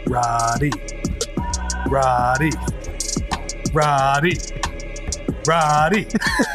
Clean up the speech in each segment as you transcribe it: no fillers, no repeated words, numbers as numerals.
Roddy. Roddy. Roddy. Roddy.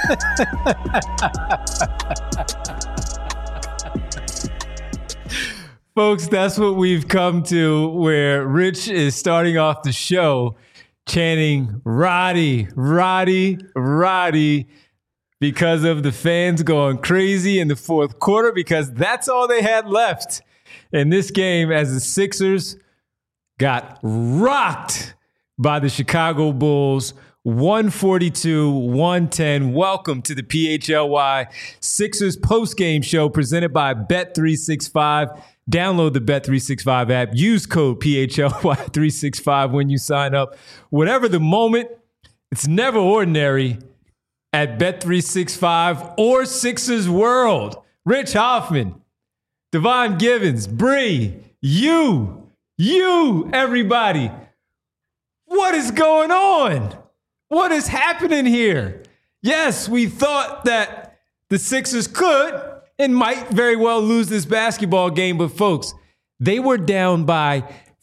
Folks, that's what we've come to, where Rich is starting off the show chanting Roddy, Roddy, Roddy, because of the fans going crazy in the fourth quarter, because that's all they had left in this game as the Sixers got rocked by the Chicago Bulls, 142-110. Welcome to the PHLY Sixers postgame show presented by Bet365. Download the Bet365 app. Use code PHLY365 when you sign up. Whatever the moment, it's never ordinary at Bet365 or Sixers World. Rich Hoffman, Devon Givens, Bree, you, everybody. What is going on? What is happening here? Yes, we thought that the Sixers could and might very well lose this basketball game, but folks, they were down by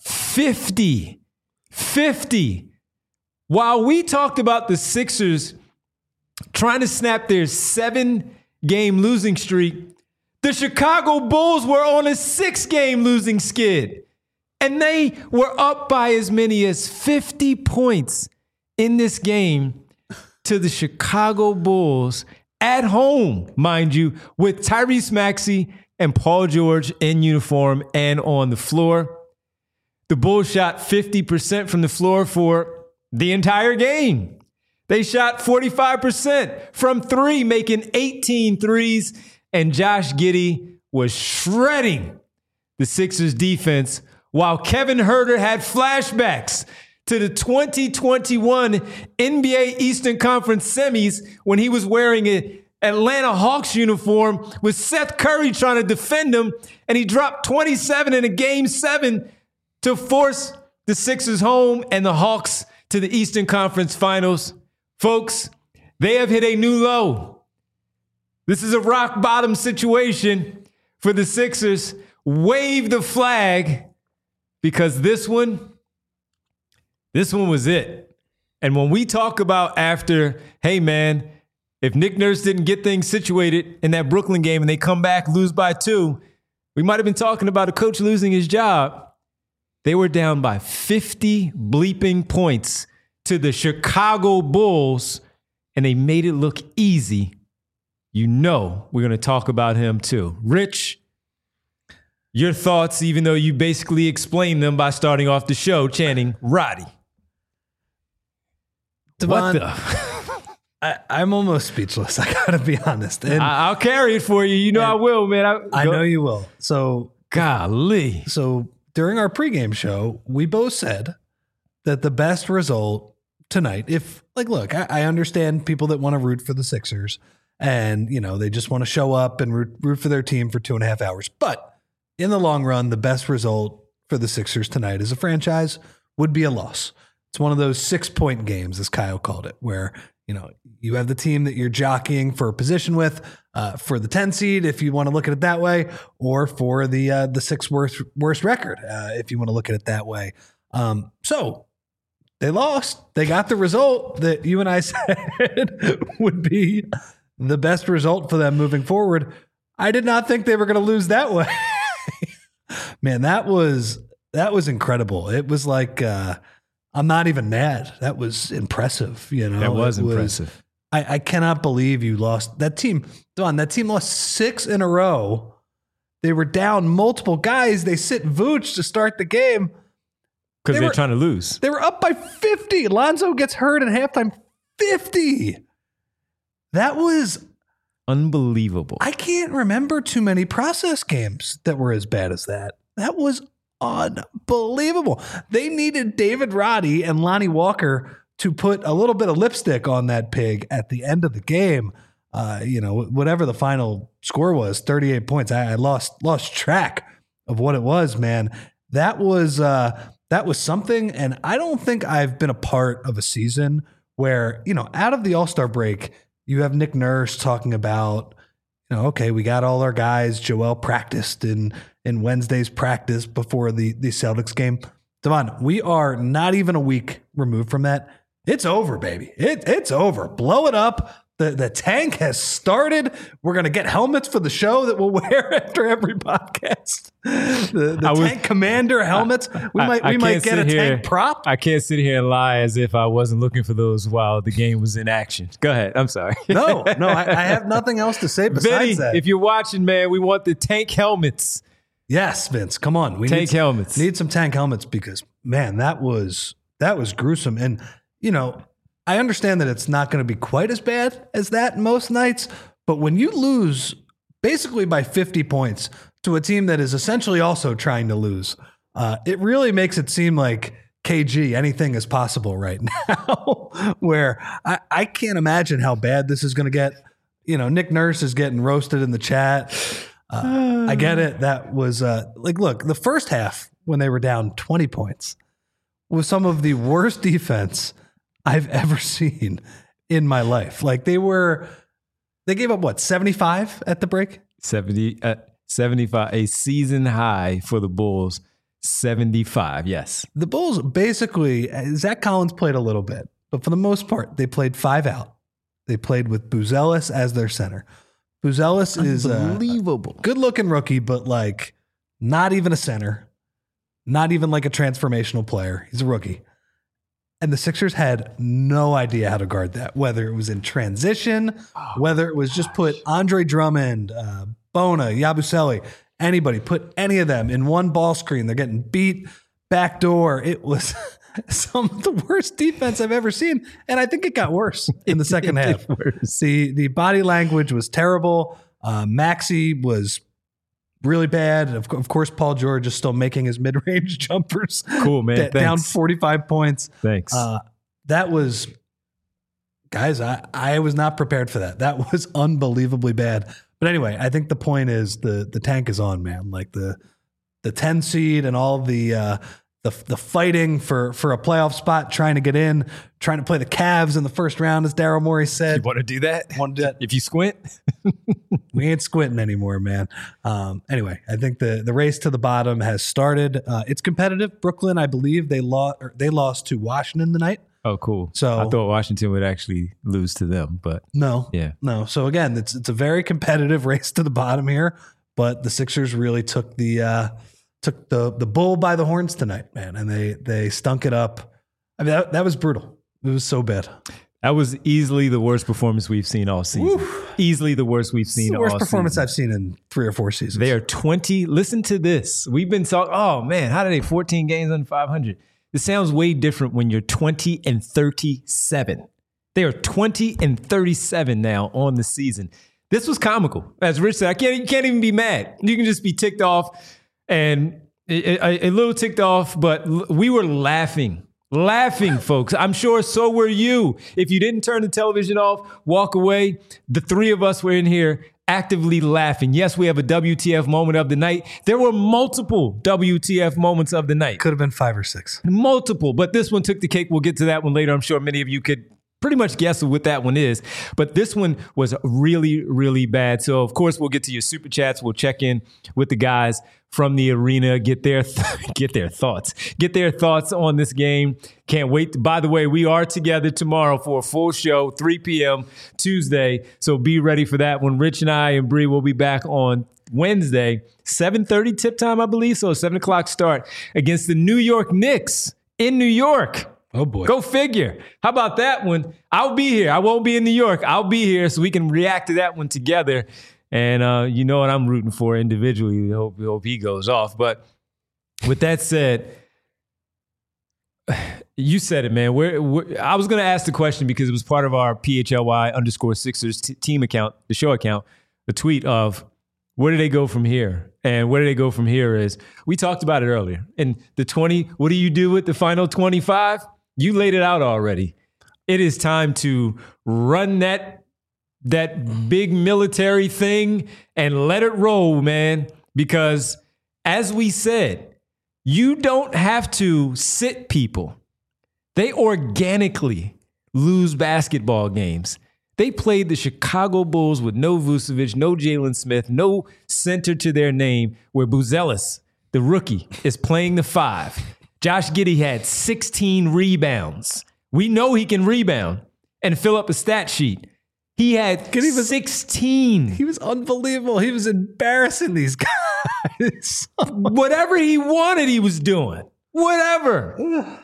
50. 50. While we talked about the Sixers trying to snap their 7-game losing streak, the Chicago Bulls were on a 6-game losing skid. And they were up by as many as 50 points in this game to the Chicago Bulls at home, mind you, with Tyrese Maxey and Paul George in uniform and on the floor. The Bulls shot 50% from the floor for the entire game. They shot 45% from three, making 18 threes, and Josh Giddey was shredding the Sixers defense, while Kevin Huerter had flashbacks to the 2021 NBA Eastern Conference semis when he was wearing an Atlanta Hawks uniform with Seth Curry trying to defend him, and he dropped 27 in a Game 7 to force the Sixers home and the Hawks to the Eastern Conference Finals. Folks, they have hit a new low. This is a rock bottom situation for the Sixers. Wave the flag, because this one was it. And when we talk about after, hey man, if Nick Nurse didn't get things situated in that Brooklyn game and they come back, lose by 2, we might have been talking about a coach losing his job. They were down by 50 bleeping points to the Chicago Bulls, and they made it look easy. You know we're going to talk about him too. Rich, your thoughts, even though you basically explained them by starting off the show chanting Roddy. Devon, I'm almost speechless. I gotta be honest. And I'll carry it for you. You know I will, man. I know you will. So, golly. So during our pregame show, we both said that the best result tonight, I understand people that want to root for the Sixers and, they just want to show up and root for their team for 2.5 hours. But in the long run, the best result for the Sixers tonight as a franchise would be a loss. It's one of those 6-point games, as Kyle called it, where, you have the team that you're jockeying for a position with, for the 10 seed, if you want to look at it that way, or for the 6th worst record, if you want to look at it that way. So they lost. They got the result that you and I said would be the best result for them moving forward. I did not think they were going to lose that way. Man, that was incredible. It was like, I'm not even mad. That was impressive. That was impressive. I cannot believe you lost that team. Don, that team lost 6 in a row. They were down multiple guys. They sit Vooch to start the game. Because they're trying to lose. They were up by 50. Lonzo gets hurt at halftime. 50. That was unbelievable. I can't remember too many process games that were as bad as that. That was unbelievable. They needed David Roddy and Lonnie Walker to put a little bit of lipstick on that pig at the end of the game. Whatever the final score was, 38 points. I lost track of what it was, man. That was something. And I don't think I've been a part of a season where, out of the All-Star break, you have Nick Nurse talking about, okay, we got all our guys. Joel practiced in Wednesday's practice before the Celtics game. Devon, we are not even a week removed from that. It's over, baby. It's over. Blow it up. The tank has started. We're going to get helmets for the show that we'll wear after every podcast. The tank commander helmets. We might get a tank prop. I can't sit here and lie as if I wasn't looking for those while the game was in action. Go ahead. I'm sorry. No, I have nothing else to say besides Vinny, that. if you're watching, man, we want the tank helmets. Yes, Vince, come on. We tank helmets. Need some tank helmets because, man, that was gruesome. And, you know, I understand that it's not going to be quite as bad as that most nights, but when you lose basically by 50 points to a team that is essentially also trying to lose, it really makes it seem like KG, anything is possible right now, where I can't imagine how bad this is going to get. You know, Nick Nurse is getting roasted in the chat. I get it. That was look, the first half when they were down 20 points was some of the worst defense I've ever seen in my life. Like they gave up what, 75 at the break? 75, a season high for the Bulls. 75, yes. The Bulls basically, Zach Collins played a little bit, but for the most part, they played 5 out. They played with Buzelis as their center. Buzelis is unbelievable. Good-looking rookie, but like not even a center, not even like a transformational player. He's a rookie. And the Sixers had no idea how to guard that, whether it was in transition, whether it was just put Andre Drummond, Bona, Yabusele, anybody, put any of them in one ball screen. They're getting beat backdoor. It was some of the worst defense I've ever seen. And I think it got worse in the second half. The body language was terrible. Maxey was really bad. Of course, Paul George is still making his mid-range jumpers. Cool, man. Down 45 points. Thanks. That was, guys, I was not prepared for that. That was unbelievably bad. But anyway, I think the point is the tank is on, man. Like the 10 seed and all the fighting for a playoff spot, trying to get in, trying to play the Cavs in the first round, as Daryl Morey said. You want to do that? Want to do that? If you squint? We ain't squinting anymore, man. Anyway, I think the race to the bottom has started. It's competitive. Brooklyn, I believe they lost to Washington tonight. Oh, cool. So I thought Washington would actually lose to them, but no. So again, it's a very competitive race to the bottom here, but the Sixers really took the bull by the horns tonight, man, and they stunk it up. I mean, that was brutal. It was so bad. That was easily the worst performance we've seen all season. Oof. Easily the worst we've seen all season. The worst performance I've seen in 3 or 4 seasons. They are 20. Listen to this. We've been talking, oh man, how did they 14 games under 500? This sounds way different when you're 20-37. They are 20-37 now on the season. This was comical. As Rich said, you can't even be mad. You can just be ticked off and a little ticked off, but we were laughing, folks. I'm sure so were you. If you didn't turn the television off, walk away. The 3 of us were in here actively laughing. Yes, we have a WTF moment of the night. There were multiple WTF moments of the night. Could have been 5 or 6. Multiple, but this one took the cake. We'll get to that one later. I'm sure many of you could pretty much guess what that one is, but this one was really, really bad. So of course we'll get to your super chats. We'll check in with the guys from the arena, get their thoughts on this game. Can't wait. By the way, we are together tomorrow for a full show, 3 p.m. Tuesday. So be ready for that one. Rich and I and Bree will be back on Wednesday, 7:30 tip time, I believe. So 7 o'clock start against the New York Knicks in New York. Oh, boy. Go figure. How about that one? I'll be here. I won't be in New York. I'll be here so we can react to that one together. And you know what I'm rooting for individually. Hope he goes off. But with that said, you said it, man. I was going to ask the question because it was part of our PHLY_Sixers team account, the show account, the tweet of where do they go from here? And where do they go from here is, we talked about it earlier. And the 20, what do you do with the final 25? You laid it out already. It is time to run that big military thing and let it roll, man. Because as we said, you don't have to sit people. They organically lose basketball games. They played the Chicago Bulls with no Vucevic, no Jalen Smith, no center to their name, where Buzelis, the rookie, is playing the 5. Josh Giddey had 16 rebounds. We know he can rebound and fill up a stat sheet. He had 16. He was unbelievable. He was embarrassing these guys. Whatever he wanted, he was doing. Whatever.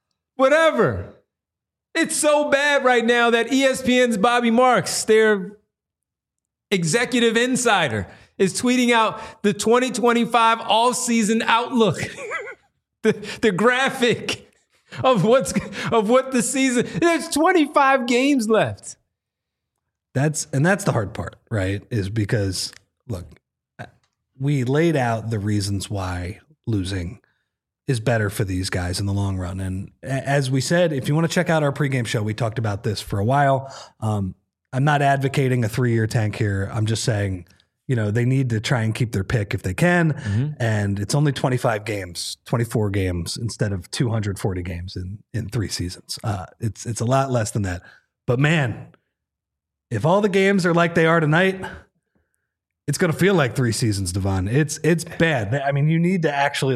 It's so bad right now that ESPN's Bobby Marks, their executive insider, is tweeting out the 2025 offseason outlook. the graphic of what the season. There's 25 games left. That's the hard part, right? Is because, look, we laid out the reasons why losing is better for these guys in the long run. And as we said, if you want to check out our pregame show, we talked about this for a while. I'm not advocating a 3-year tank here. I'm just saying, they need to try and keep their pick if they can. Mm-hmm. And it's only 25 games, 24 games instead of 240 games in 3 seasons. It's a lot less than that. But man, if all the games are like they are tonight, it's going to feel like 3 seasons, Devon. It's bad. I mean, you need to actually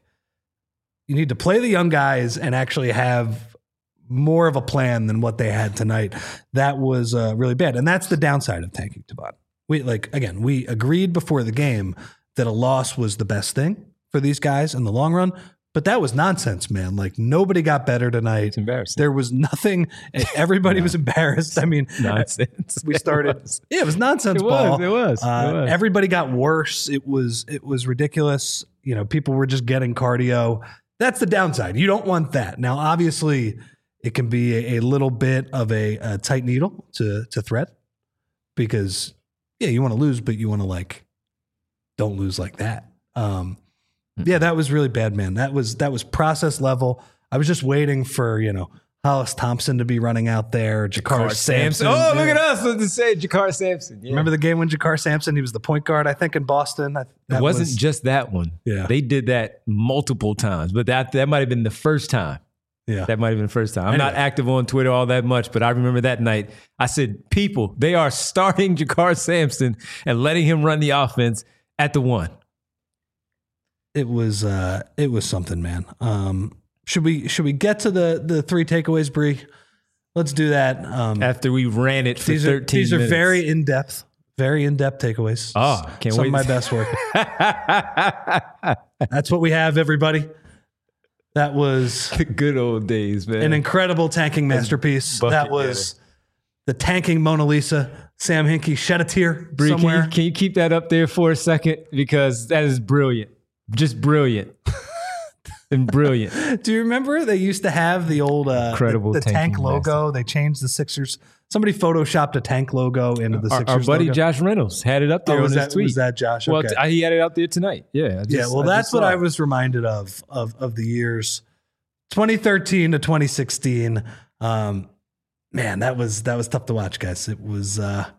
you need to play the young guys and actually have more of a plan than what they had tonight. That was really bad. And that's the downside of tanking, Devon. We agreed before the game that a loss was the best thing for these guys in the long run. But that was nonsense, man. Nobody got better tonight. It's embarrassing. There was nothing. Everybody was embarrassed. I mean, nonsense. We started. It was nonsense ball. It was. Everybody got worse. It was ridiculous. People were just getting cardio. That's the downside. You don't want that. Now, obviously, it can be a little bit of a tight needle to thread because, you want to lose, but you want to don't lose like that. Yeah, that was really bad, man. That was process level. I was just waiting for, Hollis Thompson to be running out there, Jakar Sampson. Oh, look at us. Let's say Jakar Sampson. Yeah. Remember the game when Jakar Sampson, he was the point guard, I think, in Boston? It wasn't just that one. Yeah. They did that multiple times, but that might have been the first time. Yeah. That might have been the first time. I'm not active on Twitter all that much, but I remember that night. I said, people, they are starting Jakar Sampson and letting him run the offense at the 1. It was something, man. Should we get to the 3 takeaways, Bree? Let's do that. After we ran it for 13 minutes. These are very in-depth takeaways. Oh, can't wait. Some of my best work. That's what we have, everybody. That was the good old days, man. An incredible tanking masterpiece. That was the tanking Mona Lisa. Sam Hinkie shed a tear somewhere. Can you keep that up there for a second? Because that is brilliant. Just brilliant. And brilliant. Do you remember they used to have the old incredible the tank logo? They changed the Sixers. Somebody photoshopped a tank logo into the Sixers. Our buddy logo. Josh Reynolds had it up there on his tweet. Was that Josh? Well, okay. He had it out there tonight. Yeah. That's what I was reminded of the years 2013 to 2016. Man, that was tough to watch, guys. It was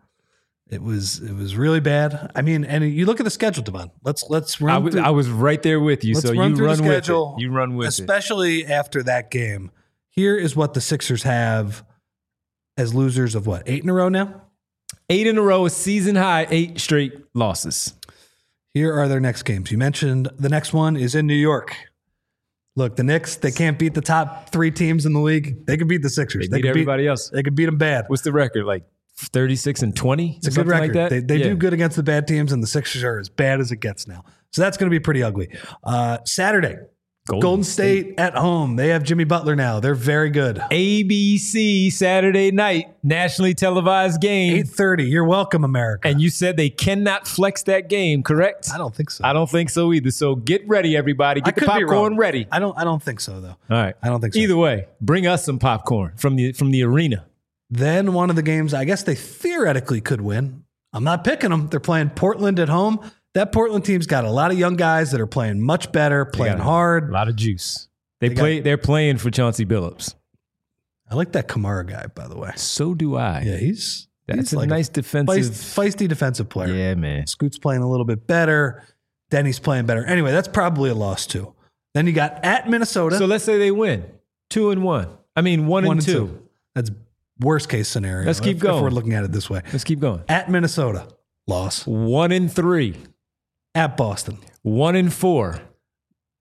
really bad. I mean, and you look at the schedule, Devon. Let's run. I was right there with you. So you run with it. You run with it. Especially after that game. Here is what the Sixers have as losers of 8 in a row now? 8 in a row, a season high, 8 straight losses. Here are their next games. You mentioned the next one is in New York. Look, the Knicks, they can't beat the top 3 teams in the league. They can beat the Sixers. They beat everybody else. They can beat them bad. What's the record? 36-20? It's a good record. Like they do good against the bad teams, and the Sixers are as bad as it gets now. So that's going to be pretty ugly. Saturday, Golden State at home. They have Jimmy Butler now. They're very good. ABC Saturday night, nationally televised game. 8:30. You're welcome, America. And you said they cannot flex that game, correct? I don't think so. I don't think so either. So get ready, everybody. Get the popcorn ready. I don't think so, though. All right. I don't think so. Either way, bring us some popcorn from the arena. Then one of the games I guess they theoretically could win. I'm not picking them. They're playing Portland at home. That Portland team's got a lot of young guys that are playing much better, playing hard. A lot of juice. They're playing for Chauncey Billups. I like that Kamara guy, by the way. So do I. Yeah, that's a nice defensive, feisty defensive player. Yeah, man. Scoot's playing a little bit better. Denny's playing better. Anyway, that's probably a loss too. Then you got at Minnesota. So let's say they win 2-1. I mean 1-2. That's worst case scenario. Let's keep going. If we're looking at it this way. Let's keep going. At Minnesota, loss. 1-3. At Boston, 1-4.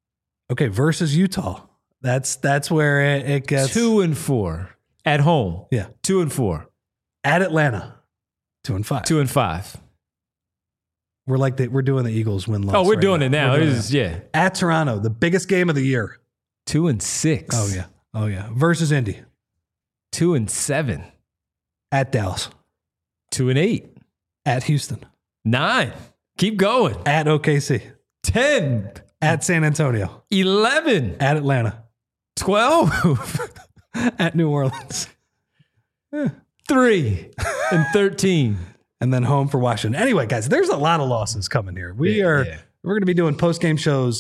Okay, versus Utah. That's where it gets 2-4 at home. Yeah. 2-4. At Atlanta. 2-5. 2-5. We're doing the Eagles win-loss. Oh, we're doing it now. We're doing It is, yeah. At Toronto, the biggest game of the year. 2-6. Oh yeah. Versus Indy. 2-7. At Dallas. 2-8. At Houston. 9. Keep going. At OKC. 10. At San Antonio. 11. At Atlanta. 12. At New Orleans. 3. And 13. And then home for Washington. Anyway, guys, there's a lot of losses coming here. We're going to be doing post-game shows.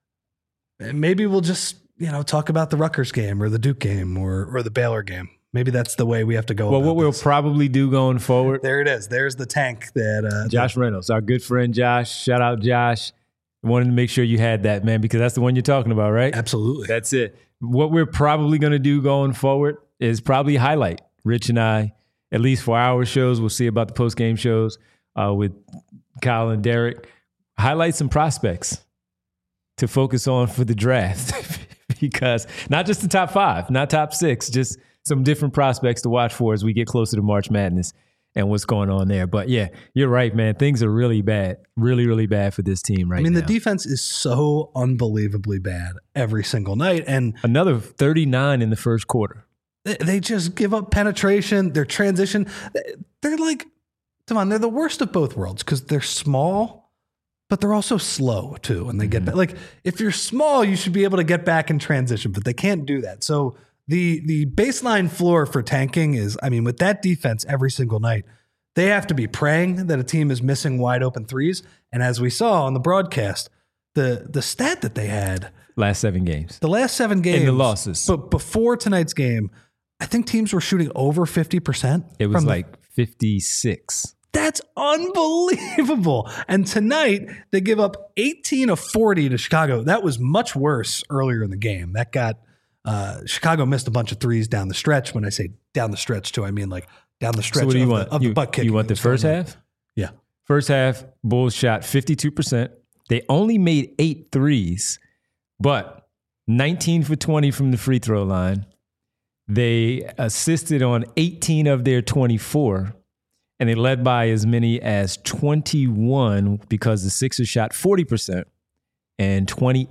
Maybe we'll just, talk about the Rutgers game or the Duke game or the Baylor game. Maybe that's the way we have to go. Well, about what we'll this. probably do going forward. There it is. There's the tank that Josh Reynolds, our good friend Josh. Shout out Josh. Wanted to make sure you had that, man, because that's the one you're talking about, right? Absolutely. That's it. What we're probably going to do going forward is probably highlight Rich and I, at least for our shows. We'll see about the post-game shows with Kyle and Derek. Highlight some prospects to focus on for the draft because not just the top 5, not top 6, just some different prospects to watch for as we get closer to March Madness and what's going on there. But yeah, you're right, man. Things are really bad, really, really bad for this team right now. the defense is so unbelievably bad every single night. And another 39 in the first quarter. They just give up penetration, their transition. They're like, come on, they're the worst of both worlds because they're small, but they're also slow too. And they get back. Like, if you're small, you should be able to get back in transition, but they can't do that. So the baseline floor for tanking is, with that defense every single night, they have to be praying that a team is missing wide open threes. And as we saw on the broadcast, the stat that they had last 7 games, the last 7 games, and the losses. But before tonight's game, I think teams were shooting over 50%. It was like 56. That's unbelievable. And tonight, they give up 18 of 40 to Chicago. That was much worse earlier in the game. That got Chicago missed a bunch of threes down the stretch. When I say down the stretch, too, I mean like down the stretch so what do you want? The butt kick. You want the first half? Yeah. First half, Bulls shot 52%. They only made 8 threes, but 19 for 20 from the free throw line. They assisted on 18 of their 24, and they led by as many as 21 because the Sixers shot 40% and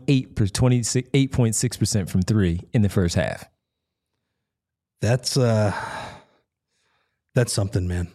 28.6% from 3 in the first half. That's something, man.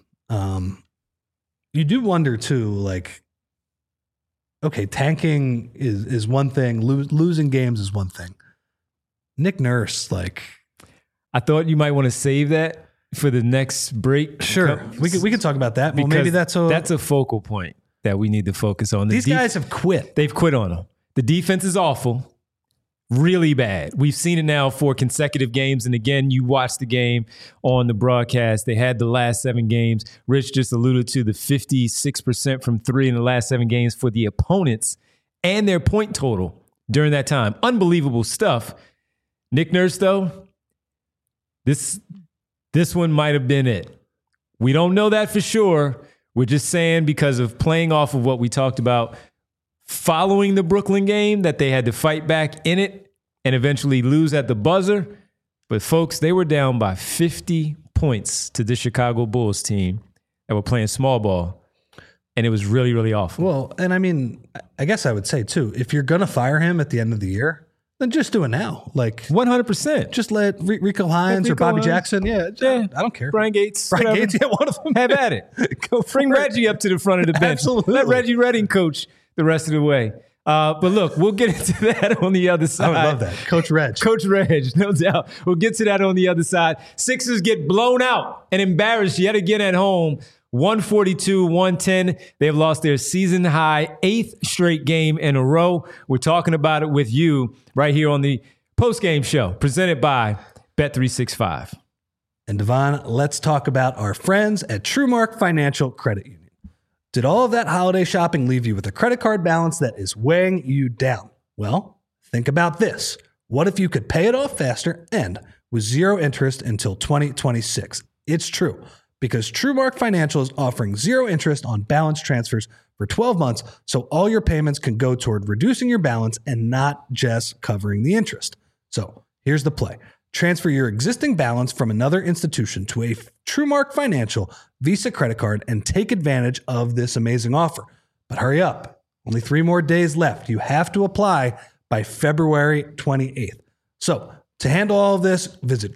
You do wonder too, like, okay, tanking is one thing, losing games is one thing. Nick Nurse, like, I thought you might want to save that for the next break. Sure, we can talk about that. Well, maybe that's a focal point that we need to focus on. These guys have quit. They've quit on them. The defense is awful, really bad. We've seen it now for consecutive games. And again, you watched the game on the broadcast. They had the last 7 games. Rich just alluded to the 56% from 3 in the last 7 games for the opponents and their point total during that time. Unbelievable stuff. Nick Nurse, though, this one might have been it. We don't know that for sure. We're just saying because of playing off of what we talked about following the Brooklyn game, that they had to fight back in it and eventually lose at the buzzer. But folks, they were down by 50 points to the Chicago Bulls team that were playing small ball. And it was really, really awful. Well, and I guess I would say too, if you're going to fire him at the end of the year, then just do it now. Like 100%. Just let Rico Hines or Bobby Jackson. Yeah, I don't care. Brian Gates. Brian Gates, yeah, one of them. Have at it. Go bring Reggie up to the front of the bench. Absolutely. Let Reggie Redding coach the rest of the way. But look, we'll get into that on the other side. I would love that. Coach Reg. Coach Reg, no doubt. We'll get to that on the other side. Sixers get blown out and embarrassed yet again at home. 142-110. They've lost their season high 8th straight game in a row. We're talking about it with you right here on the post-game show presented by Bet365. And Devon, let's talk about our friends at TrueMark Financial Credit Union. Did all of that holiday shopping leave you with a credit card balance that is weighing you down? Well, think about this. What if you could pay it off faster and with 0 interest until 2026? It's true. because TrueMark Financial is offering 0 interest on balance transfers for 12 months, so all your payments can go toward reducing your balance and not just covering the interest. So here's the play. Transfer your existing balance from another institution to a TrueMark Financial Visa credit card and take advantage of this amazing offer. But hurry up. Only 3 more days left. You have to apply by February 28th. So to handle all of this, visit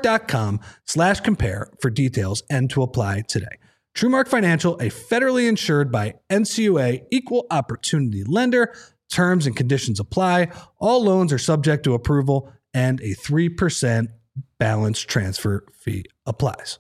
TrueMark.com/compare for details and to apply today. TrueMark Financial, a federally insured by NCUA equal opportunity lender. Terms and conditions apply. All loans are subject to approval and a 3% balance transfer fee applies.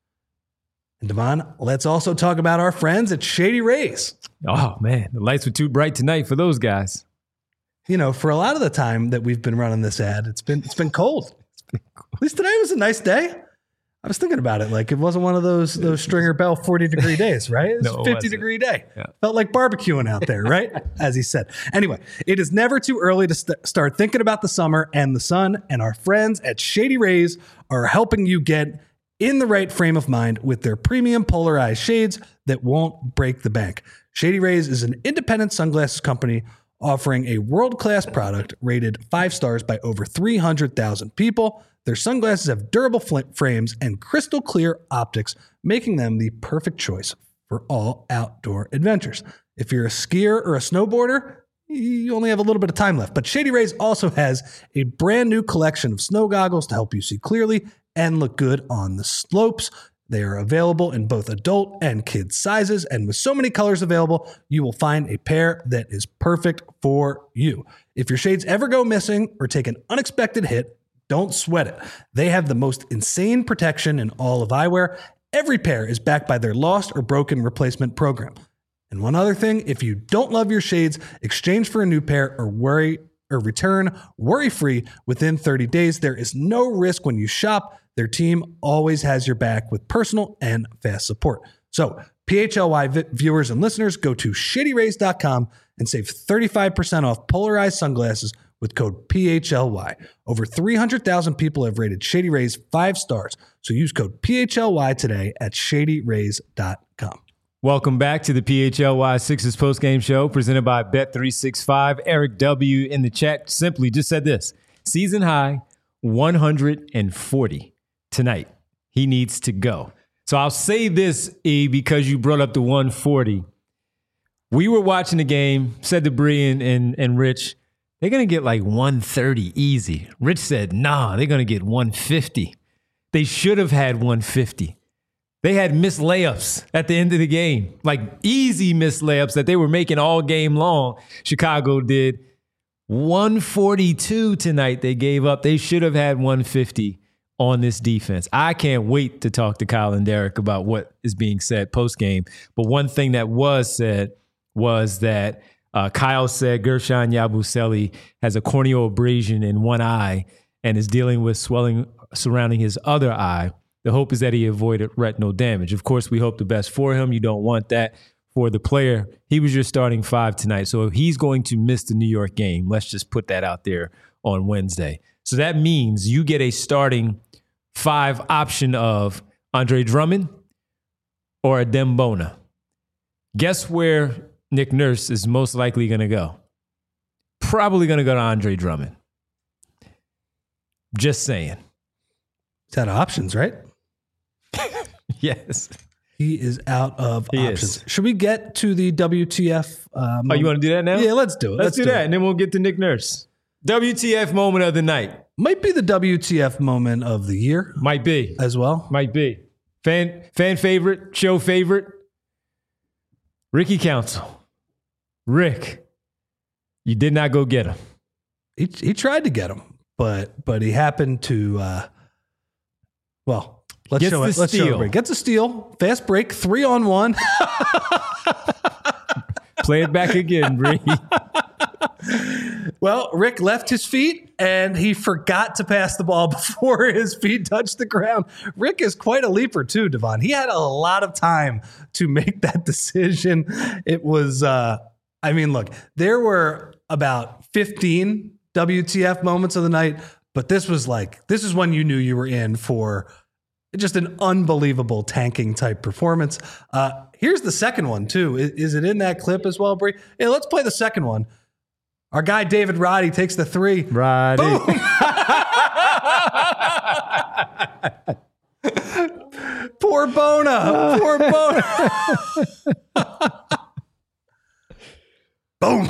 And Devon, let's also talk about our friends at Shady Rays. Oh man, the lights were too bright tonight for those guys. You know, for a lot of the time that we've been running this ad, it's been cold. At least today was a nice day. I was thinking about it. Like, it wasn't one of those Stringer Bell 40-degree days, right? It was No, a 50-degree day. Yeah. Felt like barbecuing out there, right? As he said. Anyway, it is never too early to start thinking about the summer and the sun, and our friends at Shady Rays are helping you get in the right frame of mind with their premium polarized shades that won't break the bank. Shady Rays is an independent sunglasses company offering a world-class product rated 5 stars by over 300,000 people. Their sunglasses have durable frames and crystal clear optics, making them the perfect choice for all outdoor adventures. If you're a skier or a snowboarder, you only have a little bit of time left. But Shady Rays also has a brand new collection of snow goggles to help you see clearly and look good on the slopes. They are available in both adult and kid sizes, and with so many colors available, you will find a pair that is perfect for you. If your shades ever go missing or take an unexpected hit, don't sweat it. They have the most insane protection in all of eyewear. Every pair is backed by their lost or broken replacement program. And one other thing, if you don't love your shades, exchange for a new pair or return worry-free within 30 days. There is no risk when you shop. Their team always has your back with personal and fast support. So, PHLY viewers and listeners, go to shadyrays.com and save 35% off polarized sunglasses with code PHLY. Over 300,000 people have rated Shady Rays 5 stars. So use code PHLY today at shadyrays.com. Welcome back to the PHLY Sixers postgame show presented by Bet365. Eric W. in the chat simply just said this: season high 140 tonight. He needs to go. So I'll say this, E, because you brought up the 140. We were watching the game, said to Bree and Rich, they're going to get like 130 easy. Rich said, nah, they're going to get 150. They should have had 150. They had missed layups at the end of the game, like easy missed layups that they were making all game long. Chicago did. 142 tonight they gave up. They should have had 150 on this defense. I can't wait to talk to Kyle and Derek about what is being said post-game. But one thing that was said was that Kyle said Gershon Yabusele has a corneal abrasion in one eye and is dealing with swelling surrounding his other eye. The hope is that he avoided retinal damage. Of course, we hope the best for him. You don't want that for the player. He was your starting 5 tonight, so he's going to miss the New York game. Let's just put that out there on Wednesday. So that means you get a starting 5 option of Andre Drummond or a Dembona. Guess where Nick Nurse is most likely going to go? Probably going to go to Andre Drummond. Just saying. He's out of options, right? Yes. He is out of He options. is. Should we get to the WTF? Oh, you want to do that now? Yeah, let's do it. Let's do that, and then we'll get to Nick Nurse. WTF moment of the night. Might be the WTF moment of the year Might be. as well. Might be. Fan favorite, show favorite. Ricky Council. Rick, you did not go get him. He tried to get him, but he happened to let's Gets show the it. Let's show steal. it. Gets a steal. Fast break, 3-on-1. Play it back again, Bree. Well, Rick left his feet and he forgot to pass the ball before his feet touched the ground. Rick is quite a leaper too, Devon. He had a lot of time to make that decision. It was, look, there were about 15 WTF moments of the night, but this is when you knew you were in for Just an unbelievable tanking type performance. Here's the second one too. Is it in that clip as well, Bree? Yeah, let's play the second one. Our guy David Roddy takes the three. Roddy. Boom. Poor Bona. Poor Bona. Boom.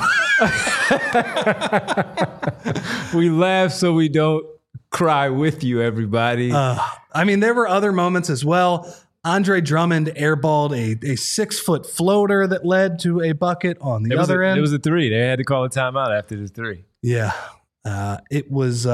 We laugh so we don't cry with you, everybody. I mean, there were other moments as well. Andre Drummond airballed a 6-foot floater that led to a bucket on the other end. It was a three. They had to call a timeout after the three. Yeah. It was...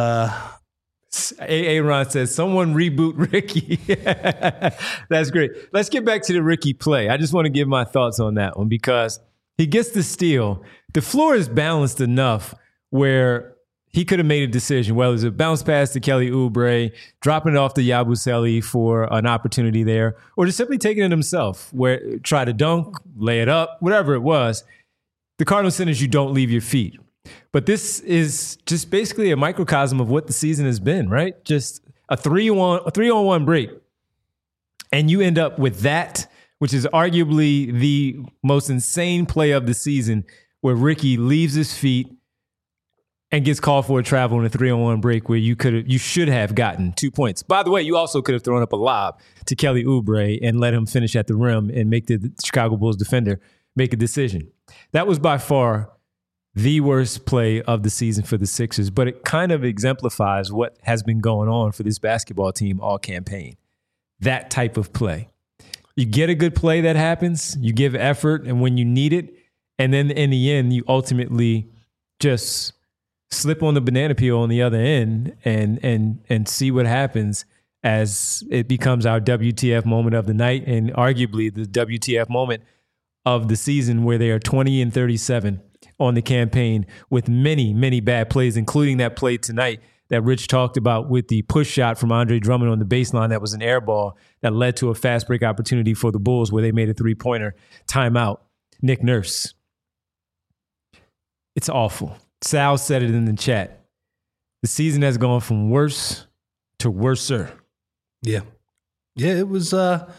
Ron says, someone reboot Ricky. That's great. Let's get back to the Ricky play. I just want to give my thoughts on that one because he gets the steal. The floor is balanced enough where he could have made a decision. Well, is it bounce pass to Kelly Oubre, dropping it off to Yabusele for an opportunity there, or just simply taking it himself, where try to dunk, lay it up, whatever it was. The Cardinal sin is you don't leave your feet. But this is just basically a microcosm of what the season has been, right? Just a 3-on-1 break. And you end up with that, which is arguably the most insane play of the season, where Ricky leaves his feet and gets called for a travel in a 3-on-1 break where you should have gotten 2 points. By the way, you also could have thrown up a lob to Kelly Oubre and let him finish at the rim and make the Chicago Bulls defender make a decision. That was by far the worst play of the season for the Sixers, but it kind of exemplifies what has been going on for this basketball team all campaign. That type of play. You get a good play that happens, you give effort, and when you need it, and then in the end, you ultimately just slip on the banana peel on the other end and see what happens as it becomes our WTF moment of the night and arguably the WTF moment of the season, where they are 20-37 on the campaign with many, many bad plays, including that play tonight that Rich talked about with the push shot from Andre Drummond on the baseline that was an air ball that led to a fast break opportunity for the Bulls where they made a three-pointer. Timeout. Nick Nurse. It's awful. Sal said it in the chat. The season has gone from worse to worser. Yeah. Yeah, it was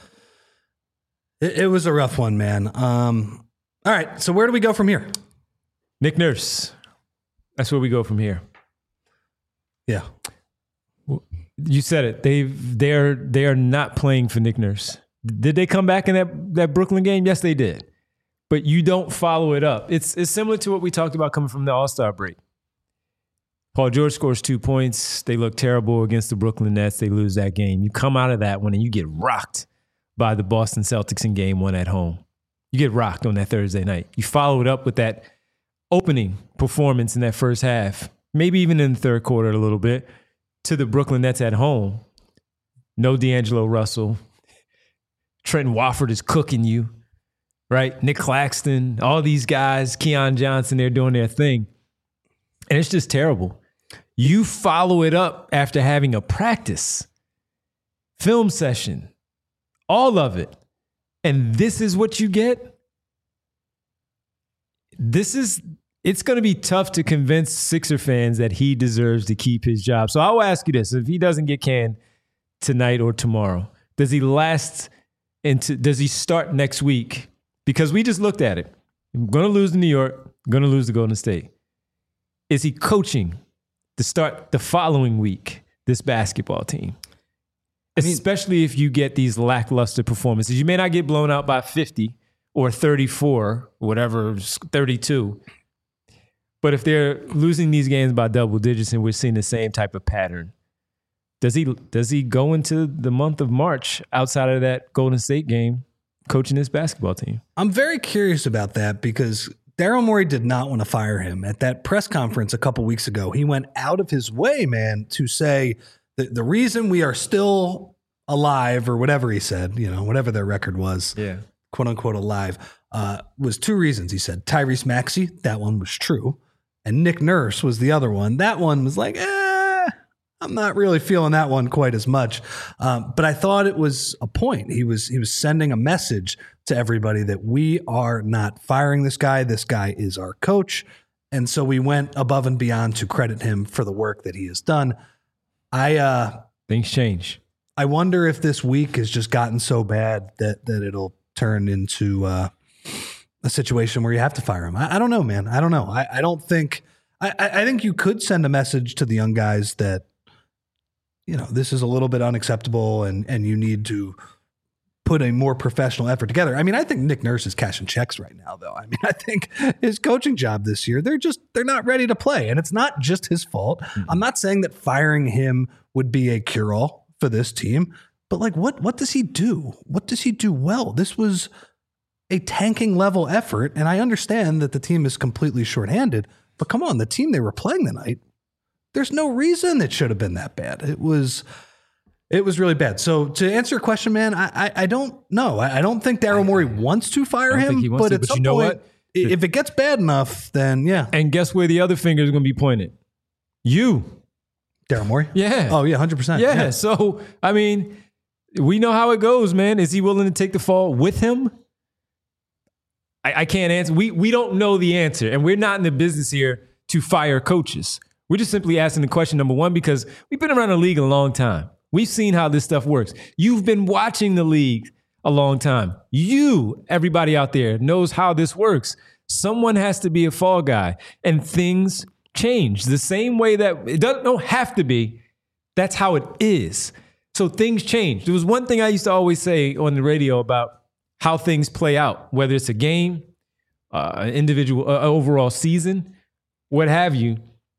it was a rough one, man. All right, so where do we go from here? Nick Nurse. That's where we go from here. Yeah. You said it. They are not playing for Nick Nurse. Did they come back in that Brooklyn game? Yes, they did. But you don't follow it up. It's similar to what we talked about coming from the All-Star break. Paul George scores 2 points. They look terrible against the Brooklyn Nets. They lose that game. You come out of that one and you get rocked by the Boston Celtics in game 1 at home. You get rocked on that Thursday night. You follow it up with that opening performance in that first half, maybe even in the third quarter a little bit, to the Brooklyn Nets at home. No D'Angelo Russell. Trenton Wofford is cooking you, right? Nick Claxton, all these guys, Keon Johnson, they're doing their thing. And it's just terrible. You follow it up after having a practice, film session, all of it. And this is what you get? It's going to be tough to convince Sixer fans that he deserves to keep his job. So I will ask you this. If he doesn't get canned tonight or tomorrow, does he start next week? Because we just looked at it. I'm going to lose to New York, going to lose to Golden State. Is he coaching to start the following week, this basketball team? Especially if you get these lackluster performances. You may not get blown out by 50 or 34, whatever, 32. But if they're losing these games by double digits and we're seeing the same type of pattern, does he go into the month of March outside of that Golden State game coaching this basketball team? I'm very curious about that because Daryl Morey did not want to fire him. At that press conference a couple weeks ago, he went out of his way, man, to say that the reason we are still alive, or whatever he said, whatever their record was, quote unquote alive, was 2 reasons. He said Tyrese Maxey, that one was true, and Nick Nurse was the other one. That one was like, I'm not really feeling that one quite as much. But I thought it was a point. He was sending a message to everybody that we are not firing this guy. This guy is our coach. And so we went above and beyond to credit him for the work that he has done. Things change. I wonder if this week has just gotten so bad that it'll turn into a situation where you have to fire him. I don't know, man. I don't know. I don't think. I think you could send a message to the young guys that, you know, this is a little bit unacceptable and you need to put a more professional effort together. I mean, I think Nick Nurse is cashing checks right now, though. I mean, I think his coaching job this year, they're not ready to play. And it's not just his fault. Mm-hmm. I'm not saying that firing him would be a cure-all for this team, but like, what does he do? What does he do well? This was a tanking level effort. And I understand that the team is completely shorthanded, but come on, the team they were playing tonight, there's no reason it should have been that bad. It was really bad. So to answer your question, man, I don't know. I don't think Daryl Morey wants to fire him, but at some point, if it gets bad enough, then yeah. And guess where the other finger is going to be pointed? You. Daryl Morey? Yeah. Oh, yeah, 100%. Yeah. So, I mean, we know how it goes, man. Is he willing to take the fall with him? I can't answer. We don't know the answer, and we're not in the business here to fire coaches. We're just simply asking the question, number one, because we've been around the league a long time. We've seen how this stuff works. You've been watching the league a long time. Everybody out there, knows how this works. Someone has to be a fall guy, and things change the same way that it don't have to be. That's how it is. So things change. There was one thing I used to always say on the radio about how things play out, whether it's a game, an individual, overall season, what have you.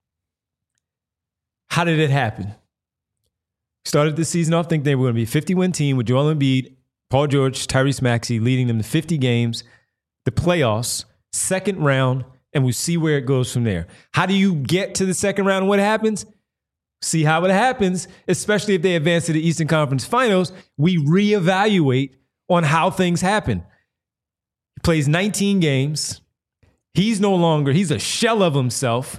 How did it happen? Started the season off thinking they were going to be a 50-win team with Joel Embiid, Paul George, Tyrese Maxey leading them to 50 games, the playoffs, second round, and we'll see where it goes from there. How do you get to the second round and what happens? See how it happens, especially if they advance to the Eastern Conference Finals. We reevaluate on how things happen. He plays 19 games. He's a shell of himself.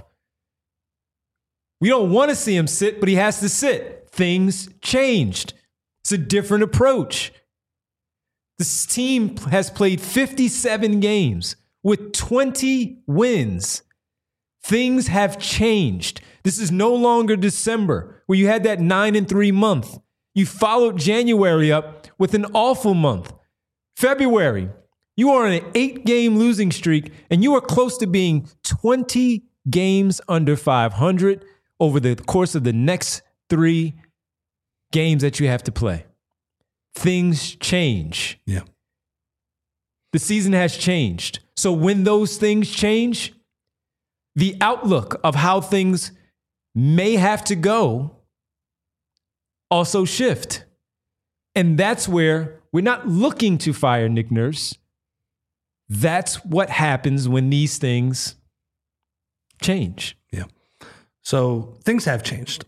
We don't want to see him sit, but he has to sit. Things changed. It's a different approach. This team has played 57 games with 20 wins. Things have changed. This is no longer December where you had that 9-3 month. You followed January up with an awful month. February, you are on an 8-game losing streak, and you are close to being 20 games under 500 over the course of the next 3 games that you have to play. Things change. Yeah. The season has changed. So when those things change, the outlook of how things may have to go also shift. And that's where we're not looking to fire Nick Nurse. That's what happens when these things change. Yeah. So things have changed.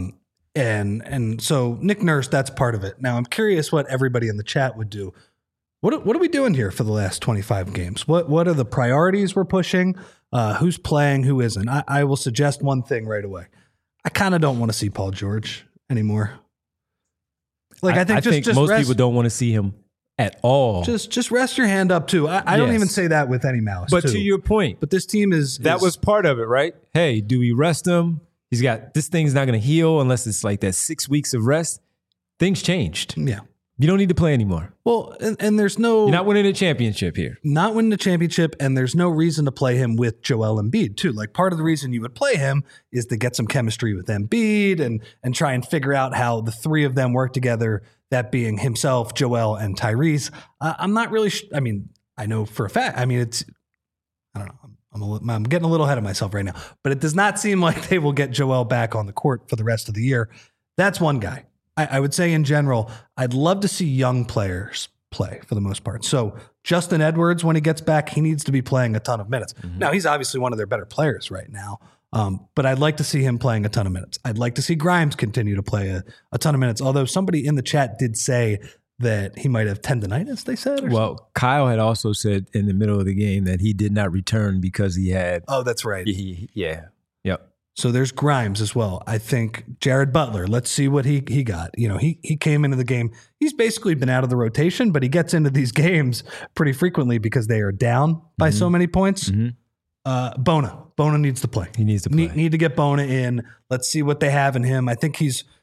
And so Nick Nurse, that's part of it. Now I'm curious what everybody in the chat would do. What are we doing here for the last 25 games? What are the priorities we're pushing? Who's playing, who isn't? I will suggest one thing right away. I kind of don't want to see Paul George anymore. Like I think most people don't want to see him at all. Just rest your hand up too. I don't even say that with any malice. But to your point, but this team that was part of it, right? Hey, do we rest him? This thing's not going to heal unless it's like that 6 weeks of rest. Things changed. Yeah. You don't need to play anymore. Well, and there's no... You're not winning a championship here. Not winning a championship, and there's no reason to play him with Joel Embiid, too. Like, part of the reason you would play him is to get some chemistry with Embiid and try and figure out how the three of them work together, that being himself, Joel, and Tyrese. I'm not really... I know for a fact... I don't know. I'm getting a little ahead of myself right now. But it does not seem like they will get Joel back on the court for the rest of the year. That's one guy. I would say in general, I'd love to see young players play for the most part. So Justin Edwards, when he gets back, he needs to be playing a ton of minutes. Mm-hmm. Now, he's obviously one of their better players right now, but I'd like to see him playing a ton of minutes. I'd like to see Grimes continue to play a ton of minutes, although somebody in the chat did say that he might have tendonitis, they said? Well, Kyle had also said in the middle of the game that he did not return because he had... Oh, that's right. Yeah. Yep. So there's Grimes as well. I think Jared Butler, let's see what he got. You know, he came into the game. He's basically been out of the rotation, but he gets into these games pretty frequently because they are down by so many points. Mm-hmm. Bona needs to play. He needs to play. Need to get Bona in. Let's see what they have in him. I think he's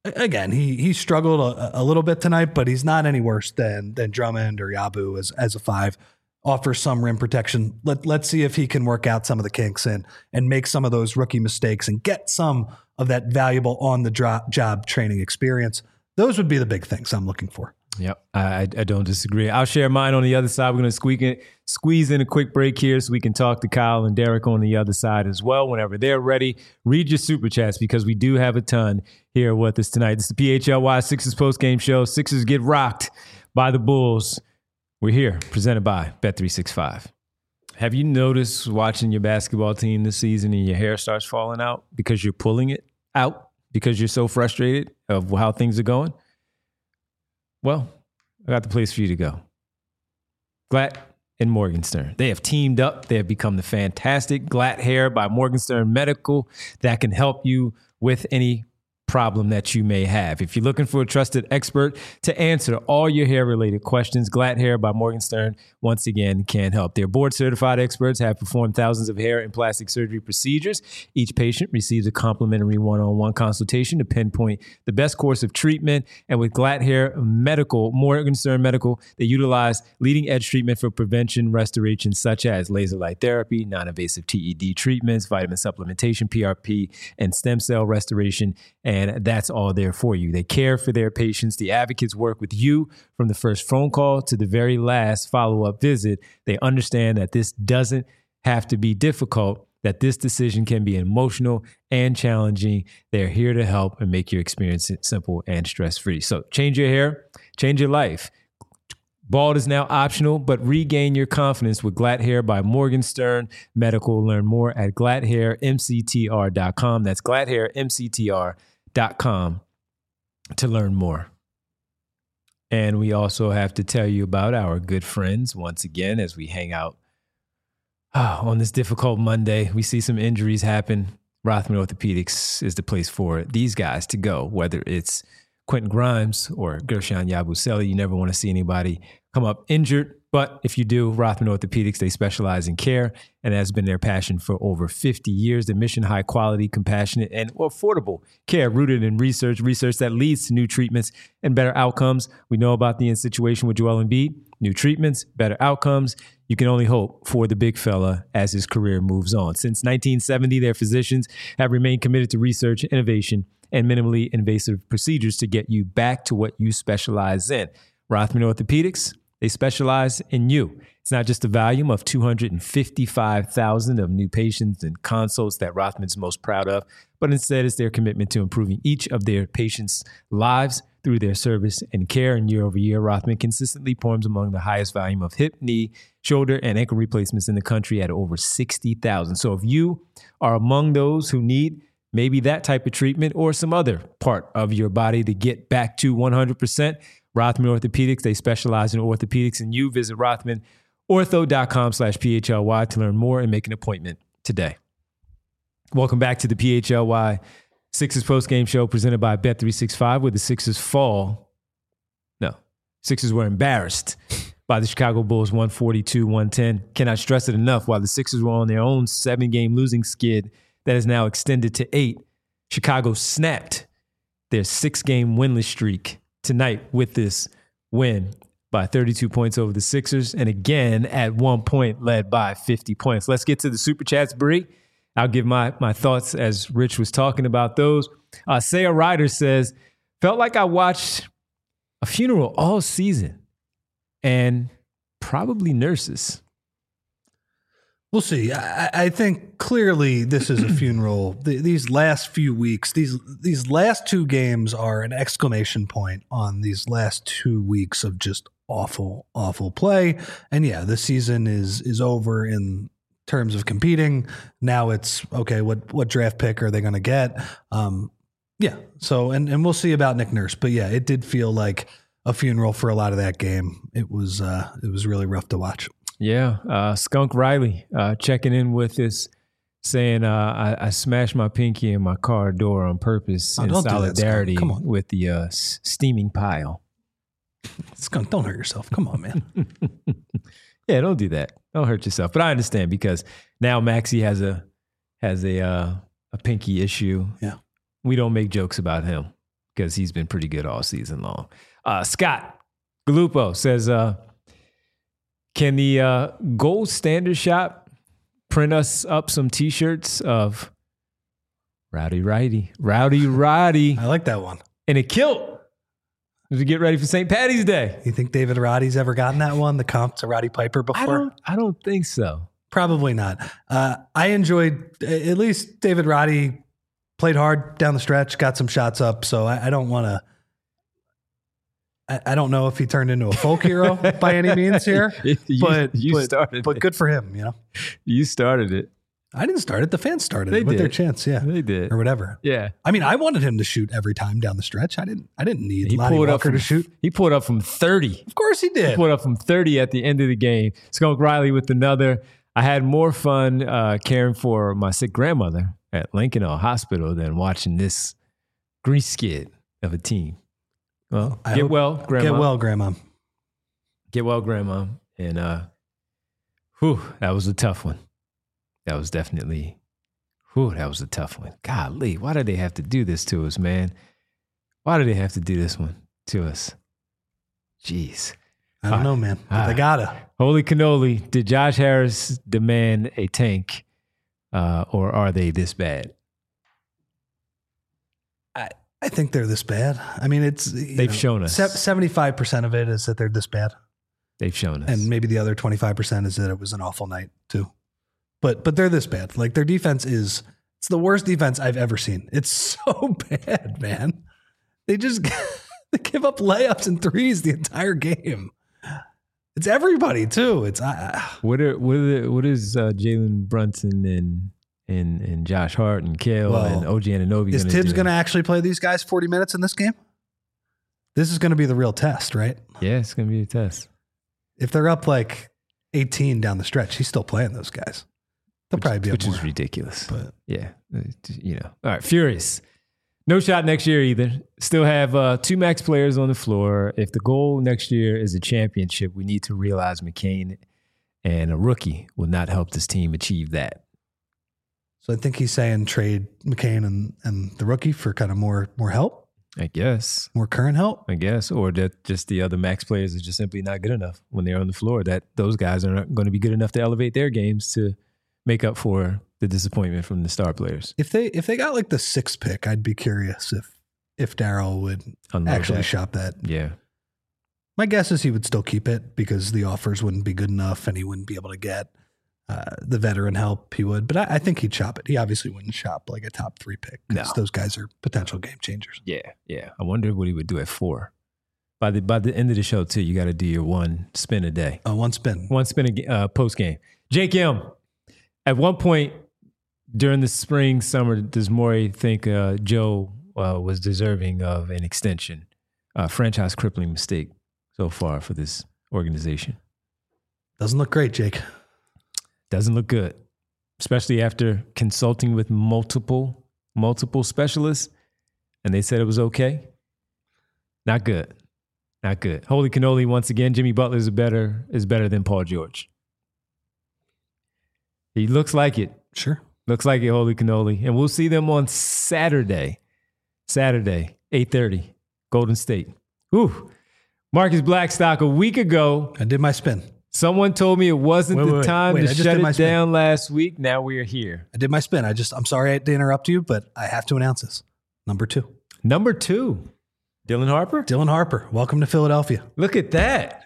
again, he struggled a little bit tonight, but he's not any worse than Drummond or Yabu as a 5. Offers some rim protection. Let's see if he can work out some of the kinks and make some of those rookie mistakes and get some of that valuable on the job training experience. Those would be the big things I'm looking for. Yep, I don't disagree. I'll share mine on the other side. We're going to squeeze in a quick break here so we can talk to Kyle and Derek on the other side as well. Whenever they're ready, read your super chats because we do have a ton here with us tonight. This is the PHLY Sixers postgame show. Sixers get rocked by the Bulls. We're here, presented by Bet365. Have you noticed watching your basketball team this season and your hair starts falling out because you're pulling it out because you're so frustrated of how things are going? Well, I got the place for you to go. Glatt and Morgenstern. They have teamed up. They have become the fantastic Glatt Hair by Morgenstern Medical that can help you with any problem that you may have. If you're looking for a trusted expert to answer all your hair-related questions, Glatt Hair by Morgenstern, once again, can help. Their board-certified experts have performed thousands of hair and plastic surgery procedures. Each patient receives a complimentary one-on-one consultation to pinpoint the best course of treatment. And with Glatt Hair Medical, Morgenstern Medical, they utilize leading-edge treatment for prevention, restoration, such as laser light therapy, non-invasive TED treatments, vitamin supplementation, PRP, and stem cell restoration. And that's all there for you. They care for their patients. The advocates work with you from the first phone call to the very last follow-up visit. They understand that this doesn't have to be difficult, that this decision can be emotional and challenging. They're here to help and make your experience simple and stress-free. So change your hair, change your life. Bald is now optional, but regain your confidence with Glatt Hair by Morgenstern Medical. Learn more at glatthairmctr.com. That's glatthairmctr.com to learn more. And we also have to tell you about our good friends once again as we hang out on this difficult Monday. We see some injuries happen. Rothman Orthopedics is the place for these guys to go, whether it's Quentin Grimes or Gershon Yabusele. You never want to see anybody come up injured. But if you do, Rothman Orthopedics, they specialize in care, and that's been their passion for over 50 years. Their mission, high quality, compassionate, and affordable care rooted in research that leads to new treatments and better outcomes. We know about the situation with Joel Embiid. New treatments, better outcomes. You can only hope for the big fella as his career moves on. Since 1970, their physicians have remained committed to research, innovation, and minimally invasive procedures to get you back to what you specialize in. Rothman Orthopedics, they specialize in you. It's not just the volume of 255,000 of new patients and consults that Rothman's most proud of, but instead it's their commitment to improving each of their patients' lives through their service and care. And year over year, Rothman consistently performs among the highest volume of hip, knee, shoulder, and ankle replacements in the country at over 60,000. So if you are among those who need maybe that type of treatment or some other part of your body to get back to 100%, Rothman Orthopedics, they specialize in orthopedics, and you visit rothmanortho.com/PHLY to learn more and make an appointment today. Welcome back to the PHLY Sixers postgame show presented by Bet365, where the Sixers Sixers were embarrassed by the Chicago Bulls 142-110. Cannot stress it enough. While the Sixers were on their own 7-game losing skid that is now extended to 8, Chicago snapped their 6-game winless streak tonight with this win by 32 points over the Sixers, and again at one point led by 50 points. Let's get to the super chats, Bree. I'll give my thoughts as Rich was talking about those. Saya Ryder says, felt like I watched a funeral all season and probably nurses. We'll see. I think clearly this is a funeral. These last few weeks, these last 2 games are an exclamation point on these last 2 weeks of just awful, awful play. And yeah, the season is over in terms of competing. Now it's okay. What draft pick are they going to get? Yeah. So and we'll see about Nick Nurse. But yeah, it did feel like a funeral for a lot of that game. It was really rough to watch. Yeah, Skunk Riley checking in with us, saying I smashed my pinky in my car door on purpose in solidarity with the steaming pile. Skunk, don't hurt yourself. Come on, man. Yeah, don't do that. Don't hurt yourself. But I understand because now Maxey has a pinky issue. Yeah, we don't make jokes about him. because he's been pretty good all season long. Scott Galupo says, can the Gold Standard Shop print us up some T-shirts of Rowdy Roddy? I like that one. And a kilt as we get ready for St. Patty's Day. You think David Roddy's ever gotten that one, the comp to Roddy Piper before? I don't think so. Probably not. I enjoyed, at least David Roddy played hard down the stretch, got some shots up. So I don't want to, I don't know if he turned into a folk hero by any means here, but good for him, you know? You started it. I didn't start it. The fans started They it with did. their chance. Yeah. They did. Or whatever. Yeah. I mean, I wanted him to shoot every time down the stretch. I didn't need Lonnie Walker to shoot. He pulled up from 30. Of course he did. He pulled up from 30 at the end of the game. Skunk Riley with another. I had more fun caring for my sick grandmother at Lincoln Hospital than watching this grease skid of a team. Well, get well, Grandma. Get well, Grandma. Get well, Grandma. And that was a tough one. That was definitely, that was a tough one. Golly, why did they have to do this to us, man? Why did they have to do this one to us? Jeez. I don't know, man. But they gotta. Holy cannoli, did Josh Harris demand a tank, or are they this bad? I think they're this bad. I mean, they've shown us. 75% of it is that they're this bad. They've shown us. And maybe the other 25% is that it was an awful night too. But they're this bad. Like their defense it's the worst defense I've ever seen. It's so bad, man. They just they give up layups and threes the entire game. It's everybody too. It's what is Jalen Brunson and Josh Hart and Kale and OG Anunoby? Is Tibbs going to actually play these guys 40 minutes in this game? This is going to be the real test, right? Yeah, it's going to be a test. If they're up like 18 down the stretch, he's still playing those guys. They'll probably be up which more. is ridiculous. But yeah, All right, Furious. No shot next year either. Still have two max players on the floor. If the goal next year is a championship, we need to realize McCain and a rookie will not help this team achieve that. So I think he's saying trade McCain and the rookie for kind of more help. I guess. More current help. I guess. Or that just the other max players are just simply not good enough when they're on the floor. That those guys are not going to be good enough to elevate their games to make up for the disappointment from the star players. If they got like the 6th pick, I'd be curious if Darryl would actually shop that. Yeah. My guess is he would still keep it because the offers wouldn't be good enough and he wouldn't be able to get the veteran help. He would, but I think he'd shop it. He obviously wouldn't shop like a top 3 pick because those guys are potential game changers. Yeah. I wonder what he would do at 4. By the end of the show too, you got to do your one spin a day. Oh, one spin post game. Jake M. At one point during the spring, summer, does Morey think Joe was deserving of an extension? Franchise crippling mistake so far for this organization. Doesn't look great, Jake. Doesn't look good, especially after consulting with multiple specialists, and they said it was okay. Not good. Holy cannoli once again. Jimmy Butler is better than Paul George. He looks like it. Sure. Looks like it, holy cannoli. And we'll see them on Saturday, 8:30, Golden State. Whew. Marcus Blackstock, a week ago. I did my spin. Someone told me it wasn't the time to shut it spin. down last week. Now we are here. I did my spin. I'm sorry to interrupt you, but I have to announce this. Number 2. Dylan Harper. Welcome to Philadelphia. Look at that.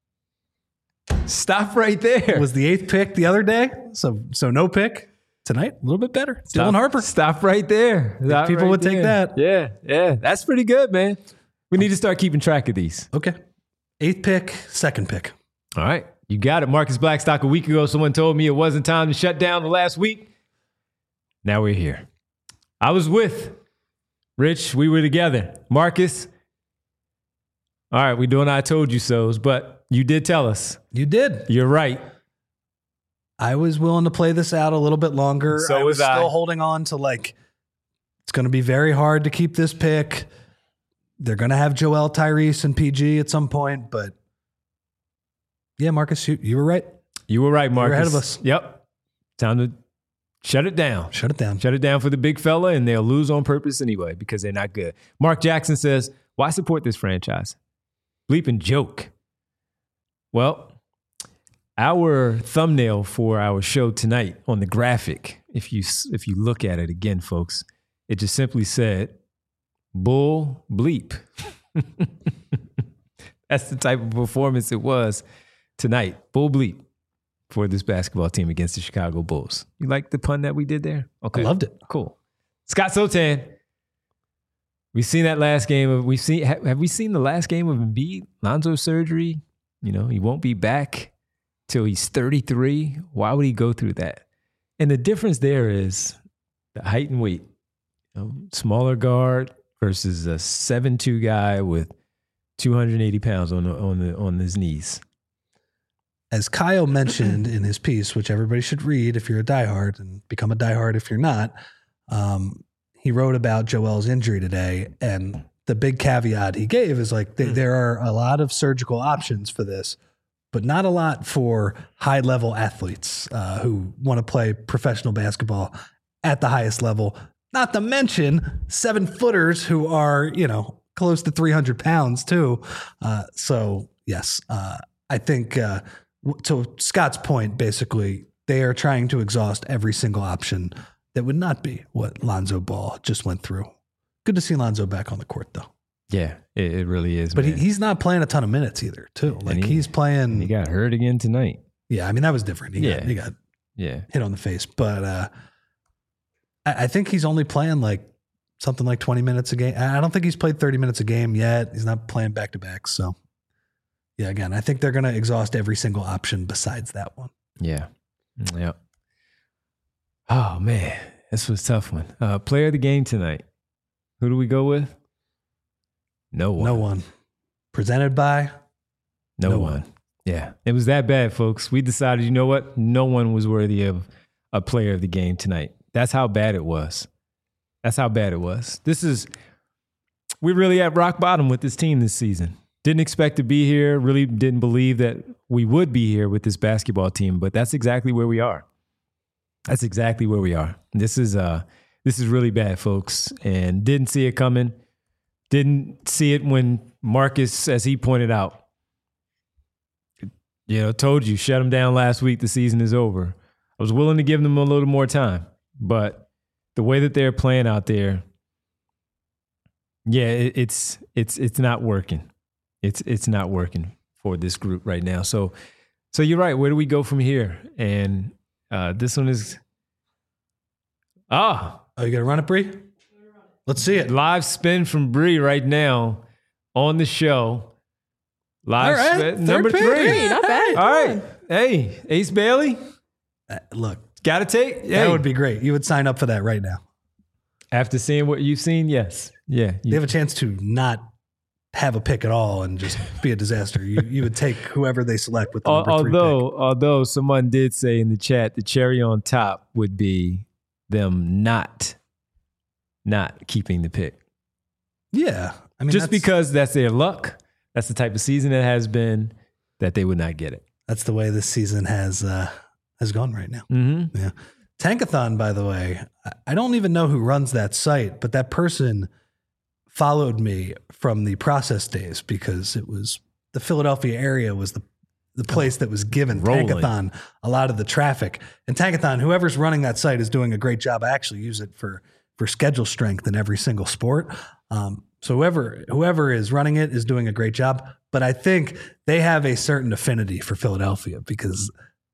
Stop right there. Was the 8th pick the other day? So no pick tonight. A little bit better. Dylan Harper. Stop right there. People would take that. Yeah. That's pretty good, man. We need to start keeping track of these. Okay. 8th pick, 2nd pick. All right. You got it. Marcus Blackstock, a week ago, someone told me it wasn't time to shut down the last week. Now we're here. I was with Rich. We were together. Marcus. All right. We're doing I told you so's, but you did tell us. You did. You're right. I was willing to play this out a little bit longer. So was still holding on to it's going to be very hard to keep this pick. They're going to have Joel, Tyrese, and PG at some point, but yeah, Marcus, you were right. You were right, Marcus. You're ahead of us. Yep. Time to Shut it down. Shut it down. Shut it down for the big fella, and they'll lose on purpose anyway because they're not good. Mark Jackson says, why support this franchise? Bleeping joke. Well, our thumbnail for our show tonight on the graphic, if you look at it again, folks, it just simply said, bull bleep. That's the type of performance it was tonight. Bull bleep for this basketball team against the Chicago Bulls. You like the pun that we did there? Okay. I loved it. Cool. Scott Sotan. We've seen that last game of have we seen the last game of Embiid? Lonzo surgery. You know, he won't be back till he's 33. Why would he go through that? And the difference there is the height and weight. You know, smaller guard versus a 7'2" guy with 280 pounds on his knees. As Kyle mentioned in his piece, which everybody should read if you're a diehard and become a diehard if you're not, he wrote about Joel's injury today. And the big caveat he gave is like, there are a lot of surgical options for this, but not a lot for high-level athletes who want to play professional basketball at the highest level, not to mention 7-footers who are, you know, close to 300 pounds too. So, yes, I think to Scott's point, basically, they are trying to exhaust every single option that would not be what Lonzo Ball just went through. Good to see Lonzo back on the court, though. Yeah, it really is. But man. he's not playing a ton of minutes either, too. Like he's playing. He got hurt again tonight. Yeah, I mean, that was different. He got hit on the face. But I think he's only playing like something like 20 minutes a game. I don't think he's played 30 minutes a game yet. He's not playing back-to-back. So, yeah, again, I think they're going to exhaust every single option besides that one. Yeah. Yep. Oh, man. This was a tough one. Player of the game tonight. Who do we go with? No one. No one. Presented by? No one. Yeah. It was that bad, folks. We decided, you know what? No one was worthy of a player of the game tonight. That's how bad it was. We're really at rock bottom with this team this season. Didn't expect to be here. Really didn't believe that we would be here with this basketball team, but that's exactly where we are. This is really bad, folks, and didn't see it coming. Didn't see it when Marcus, as he pointed out, told you, shut him down last week. The season is over. I was willing to give them a little more time, but the way that they're playing out there, yeah, it's not working. It's not working for this group right now. So you're right. Where do we go from here? And this one is you gonna run it, Bree? Let's see it. Live spin from Bree right now on the show. Live spin number 3. Not bad. All right. Hey, Ace Bailey. Look, got to take. That would be great. You would sign up for that right now. After seeing what you've seen, yes. Yeah. They have a chance to not have a pick at all and just be a disaster. You would take whoever they select with the number 3 pick. Although someone did say in the chat, the cherry on top would be them not keeping the pick. Yeah. I mean, just because that's their luck. That's the type of season it has been, that they would not get it. That's the way this season has gone right now. Mm-hmm. Yeah. Tankathon, by the way, I don't even know who runs that site, but that person followed me from the process days because it was the Philadelphia area was the place that was given Tankathon a lot of the traffic. And Tankathon, whoever's running that site is doing a great job. I actually use it for schedule strength in every single sport. So whoever is running it is doing a great job. But I think they have a certain affinity for Philadelphia because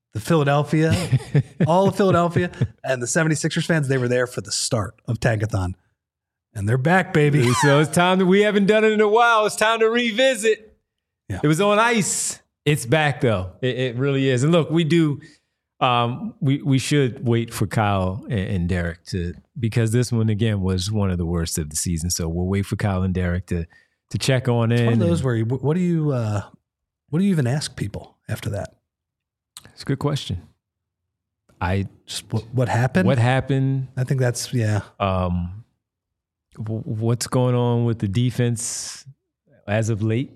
all of Philadelphia and the 76ers fans, they were there for the start of Tankathon. And they're back, baby. So it's time we haven't done it in a while. It's time to revisit. Yeah. It was on ice. It's back though. It really is. And look, we do. We should wait for Kyle and Derek because this one again was one of the worst of the season. So we'll wait for Kyle and Derek to check on in. It's one of those where what do you even ask people after that? It's a good question. What happened? What happened? I think that's what's going on with the defense as of late?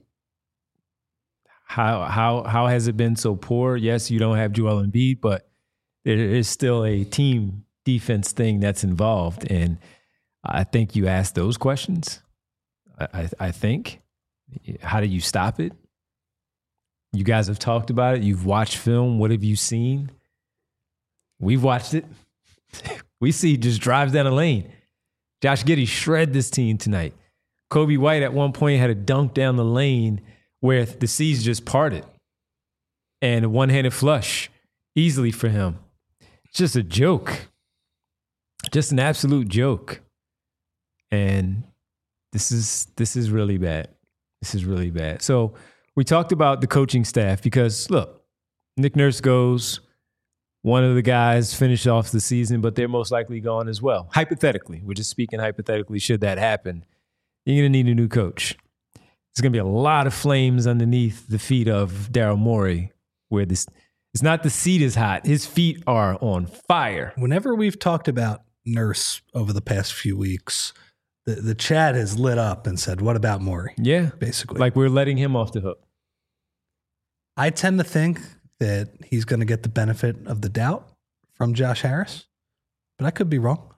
How has it been so poor? Yes, you don't have Joel Embiid, but there is still a team defense thing that's involved. And I think you asked those questions. I think. How do you stop it? You guys have talked about it. You've watched film. What have you seen? We've watched it. We see he just drives down the lane. Josh Giddey shred this team tonight. Kobe White at one point had a dunk down the lane where the seas just parted. And a one-handed flush easily for him. It's just a joke. Just an absolute joke. And this is really bad. This is really bad. So we talked about the coaching staff because, look, Nick Nurse goes. One of the guys finished off the season, but they're most likely gone as well. Hypothetically, we're just speaking hypothetically, should that happen, you're going to need a new coach. There's going to be a lot of flames underneath the feet of Daryl Morey, where it's not the seat is hot. His feet are on fire. Whenever we've talked about Nurse over the past few weeks, the chat has lit up and said, what about Morey? Yeah. Basically. Like we're letting him off the hook. I tend to think that he's going to get the benefit of the doubt from Josh Harris, but I could be wrong.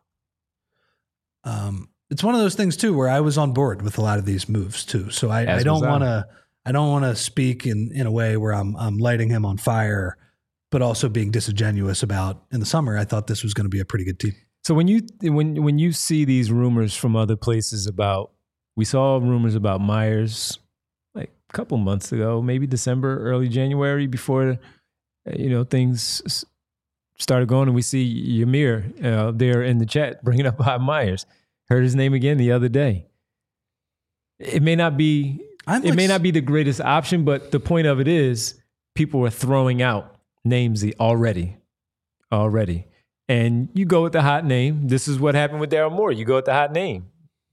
It's one of those things too, where I was on board with a lot of these moves too. So I don't want to speak in a way where I'm lighting him on fire, but also being disingenuous about in the summer, I thought this was going to be a pretty good team. So when you see these rumors from other places we saw rumors about Myers like a couple months ago, maybe December, early January, before things started going, and we see Ymir there in the chat bringing up Bob Myers. Heard his name again the other day. It may not be the greatest option, but the point of it is people are throwing out names already. And you go with the hot name. This is what happened with Daryl Morey. You go with the hot name.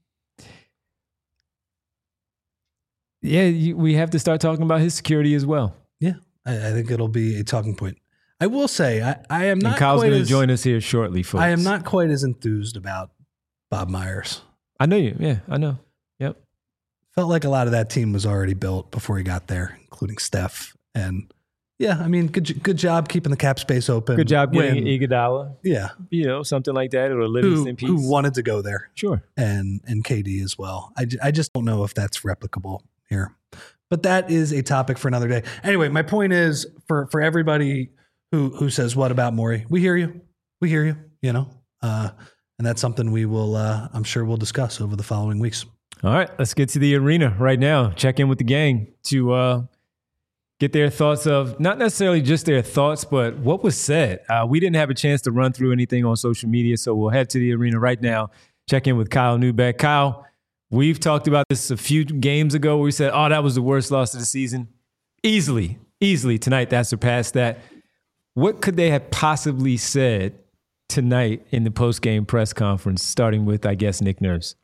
Yeah, we have to start talking about his security as well. Yeah, I think it'll be a talking point. I will say, I am not. And Kyle's going to join us here shortly, folks. I am not quite as enthused about Bob Myers. I know you. Yeah, I know. Yep. Felt like a lot of that team was already built before he got there, including Steph. And yeah, I mean, good job keeping the cap space open. Good job getting Iguodala. Yeah. Something like that, or a Livingston piece. Who wanted to go there. Sure. And KD as well. I just don't know if that's replicable here. But that is a topic for another day. Anyway, my point is for everybody who says, what about Morey? We hear you. And that's something we will, I'm sure we'll discuss over the following weeks. All right, let's get to the arena right now. Check in with the gang to get their thoughts of, not necessarily just their thoughts, but what was said. We didn't have a chance to run through anything on social media, so we'll head to the arena right now. Check in with Kyle Neubeck. Kyle, we've talked about this a few games ago where we said, that was the worst loss of the season. Easily tonight that surpassed that. What could they have possibly said tonight in the post-game press conference, starting with, I guess, Nick Nurse?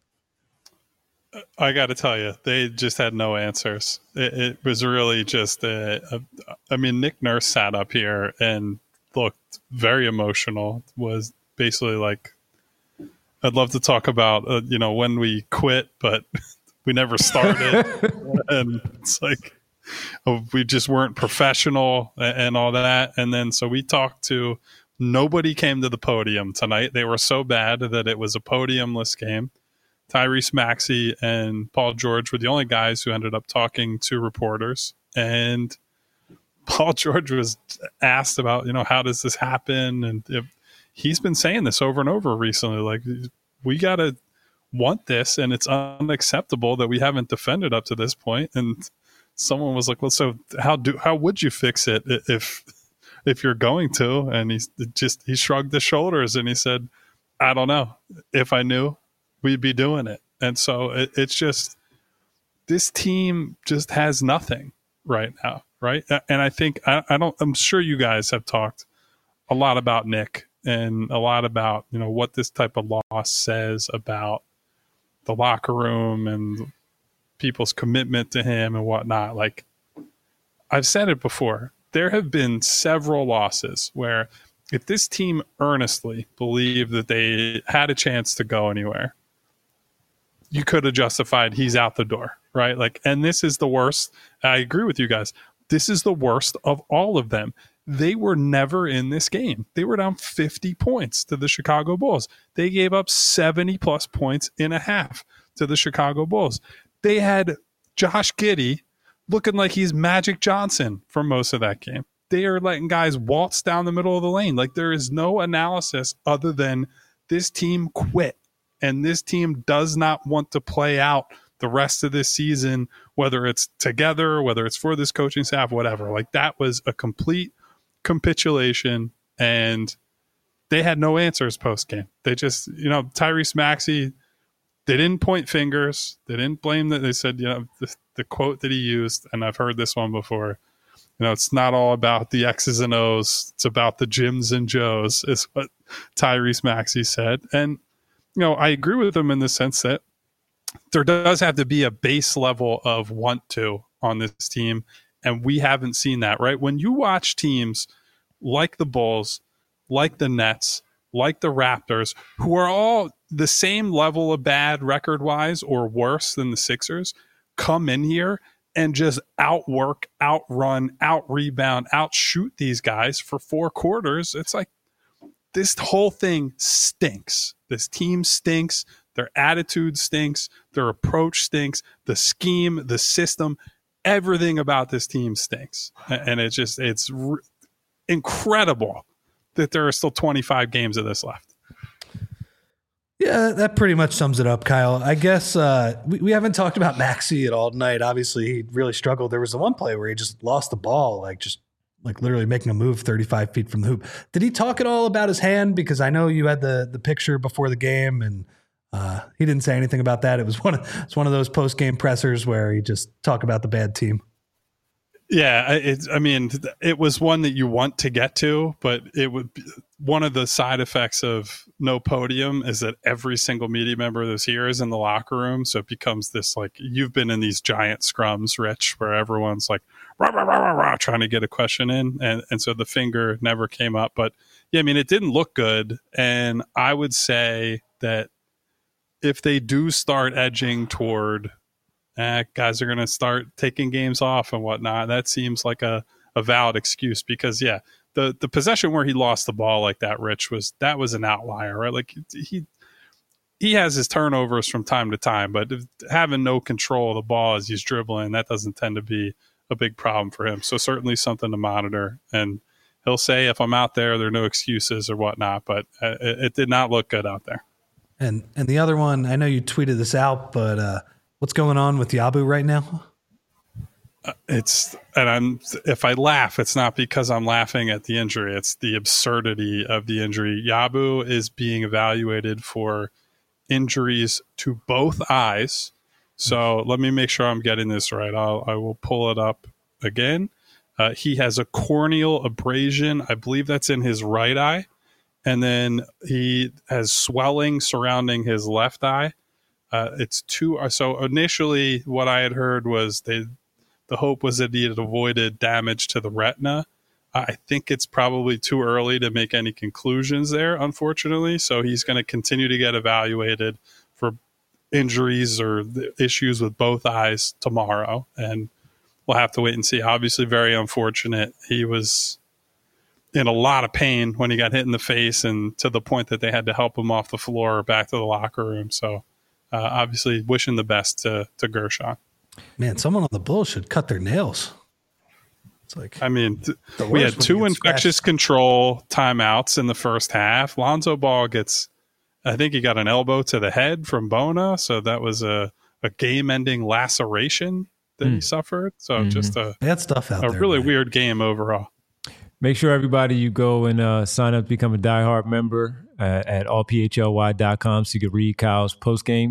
I got to tell you, they just had no answers. It was really just, Nick Nurse sat up here and looked very emotional, was basically like, I'd love to talk about, when we quit, but we never started. And it's like, we just weren't professional and all that. And then, so we talked to, nobody came to the podium tonight. They were so bad that it was a podiumless game. Tyrese Maxey and Paul George were the only guys who ended up talking to reporters. And Paul George was asked about, how does this happen? And he's been saying this over and over recently, like, we got to want this, and it's unacceptable that we haven't defended up to this point. And someone was like, well, so how would you fix it if you're going to? And he shrugged his shoulders and he said, I don't know. If I knew, we'd be doing it. And so it's just, this team just has nothing right now. Right. And I think, I'm sure you guys have talked a lot about Nick and a lot about, what this type of loss says about the locker room and people's commitment to him and whatnot. Like, I've said it before, there have been several losses where if this team earnestly believed that they had a chance to go anywhere, you could have justified he's out the door, right? Like, and this is the worst. I agree with you guys. This is the worst of all of them. they were never in this game. They were down 50 points to the Chicago Bulls. They gave up 70 plus points in a half to the Chicago Bulls. They had Josh Giddey looking like he's Magic Johnson for most of that game. They are letting guys waltz down the middle of the lane. Like, there is no analysis other than this team quit. And this team does not want to play out the rest of this season, whether it's together, whether it's for this coaching staff, whatever. Like, that was a complete capitulation, and they had no answers post-game. They just, Tyrese Maxey, they didn't point fingers. They didn't blame that. They said, the quote that he used, and I've heard this one before, it's not all about the X's and O's. It's about the Jims and Joes, is what Tyrese Maxey said. And, I agree with him in the sense that there does have to be a base level of want to on this team. And we haven't seen that, right? When you watch teams like the Bulls, like the Nets, like the Raptors, who are all the same level of bad record-wise or worse than the Sixers, come in here and just outwork, outrun, out-rebound, outshoot these guys for 4 quarters, it's like this whole thing stinks. This team stinks. Their attitude stinks. Their approach stinks. The scheme, the system, everything about this team stinks. And it's incredible that there are still 25 games of this left. Yeah, that pretty much sums it up, Kyle. I guess we haven't talked about Maxey at all tonight. Obviously, he really struggled. There was the one play where he just lost the ball, like literally making a move 35 feet from the hoop. Did he talk at all about his hand? Because I know you had the picture before the game, and he didn't say anything about that. It's one of those post-game pressers where he just talk about the bad team. Yeah, it was one that you want to get to, but it would be one of the side effects of no podium is that every single media member that's here is in the locker room. So it becomes this, like, you've been in these giant scrums, Rich, where everyone's like rah, rah, rah, rah, rah, trying to get a question in. And so the finger never came up. But yeah, it didn't look good. And I would say that if they do start edging toward guys are going to start taking games off and whatnot, that seems like a valid excuse, because the possession where he lost the ball like that, Rich, was an outlier, right? Like he has his turnovers from time to time, but having no control of the ball as he's dribbling, that doesn't tend to be a big problem for him. So certainly something to monitor. And he'll say, if I'm out there, there are no excuses or whatnot, but it did not look good out there. And the other one, I know you tweeted this out, but what's going on with Yabu right now? If I laugh, it's not because I'm laughing at the injury. It's the absurdity of the injury. Yabu is being evaluated for injuries to both eyes. So let me make sure I'm getting this right. I will pull it up again. He has a corneal abrasion. I believe that's in his right eye. And then he has swelling surrounding his left eye. So initially what I had heard was the hope was that he had avoided damage to the retina. I think it's probably too early to make any conclusions there, unfortunately. So he's going to continue to get evaluated for injuries or issues with both eyes tomorrow. And we'll have to wait and see. Obviously, very unfortunate. He was in a lot of pain when he got hit in the face, and to the point that they had to help him off the floor back to the locker room. So obviously wishing the best to Gershon. Man, someone on the Bulls should cut their nails. It's like, we had 2 infectious control timeouts in the first half. Lonzo Ball I think he got an elbow to the head from Bona. So that was a game-ending laceration that he suffered. So just bad stuff out there. A really weird game overall. Make sure everybody you go and sign up to become a diehard member at allphly.com so you can read Kyle's postgame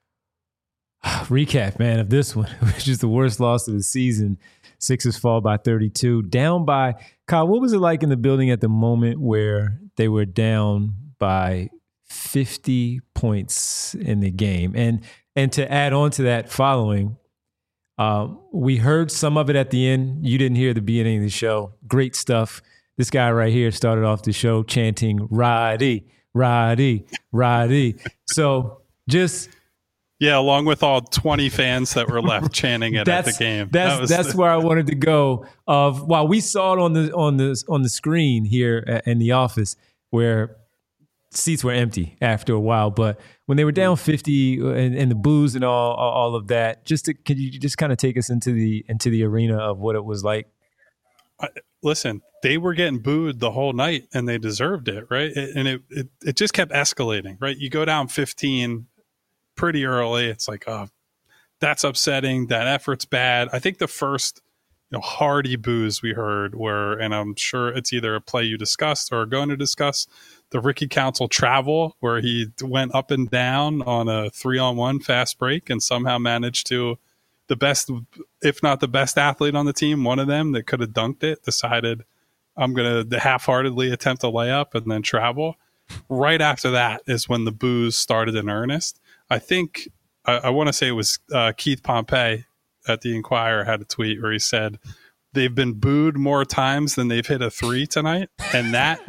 recap, man, of this one, which is the worst loss of the season. Sixers fall by 32. Down by, Kyle, what was it like in the building at the moment where they were down by 50 points in the game? And to add on to that following, we heard some of it at the end. You didn't hear the beginning of the show. Great stuff. This guy right here started off the show chanting, Roddy, Roddy, Roddy. So just Yeah, along with all 20 fans that were left chanting it at the game. That's where I wanted to go. While we saw it on the screen here in the office, where seats were empty after a while, but when they were down 50 and the booze and all of that, could you just kind of take us into the arena of what it was like? Listen, they were getting booed the whole night, and they deserved it, right? And it just kept escalating, right? You go down 15 pretty early. It's like, oh, that's upsetting. That effort's bad. I think the first hearty boos we heard were, and I'm sure it's either a play you discussed or are going to discuss, the Ricky Council travel, where he went up and down on a 3-on-1 fast break and somehow managed to, the best, if not the best athlete on the team, one of them that could have dunked it, decided, I'm going to half-heartedly attempt a layup and then travel. Right after that is when the boos started in earnest. I think, I want to say it was Keith Pompey at the Inquirer had a tweet where he said, they've been booed more times than they've hit a three tonight. And that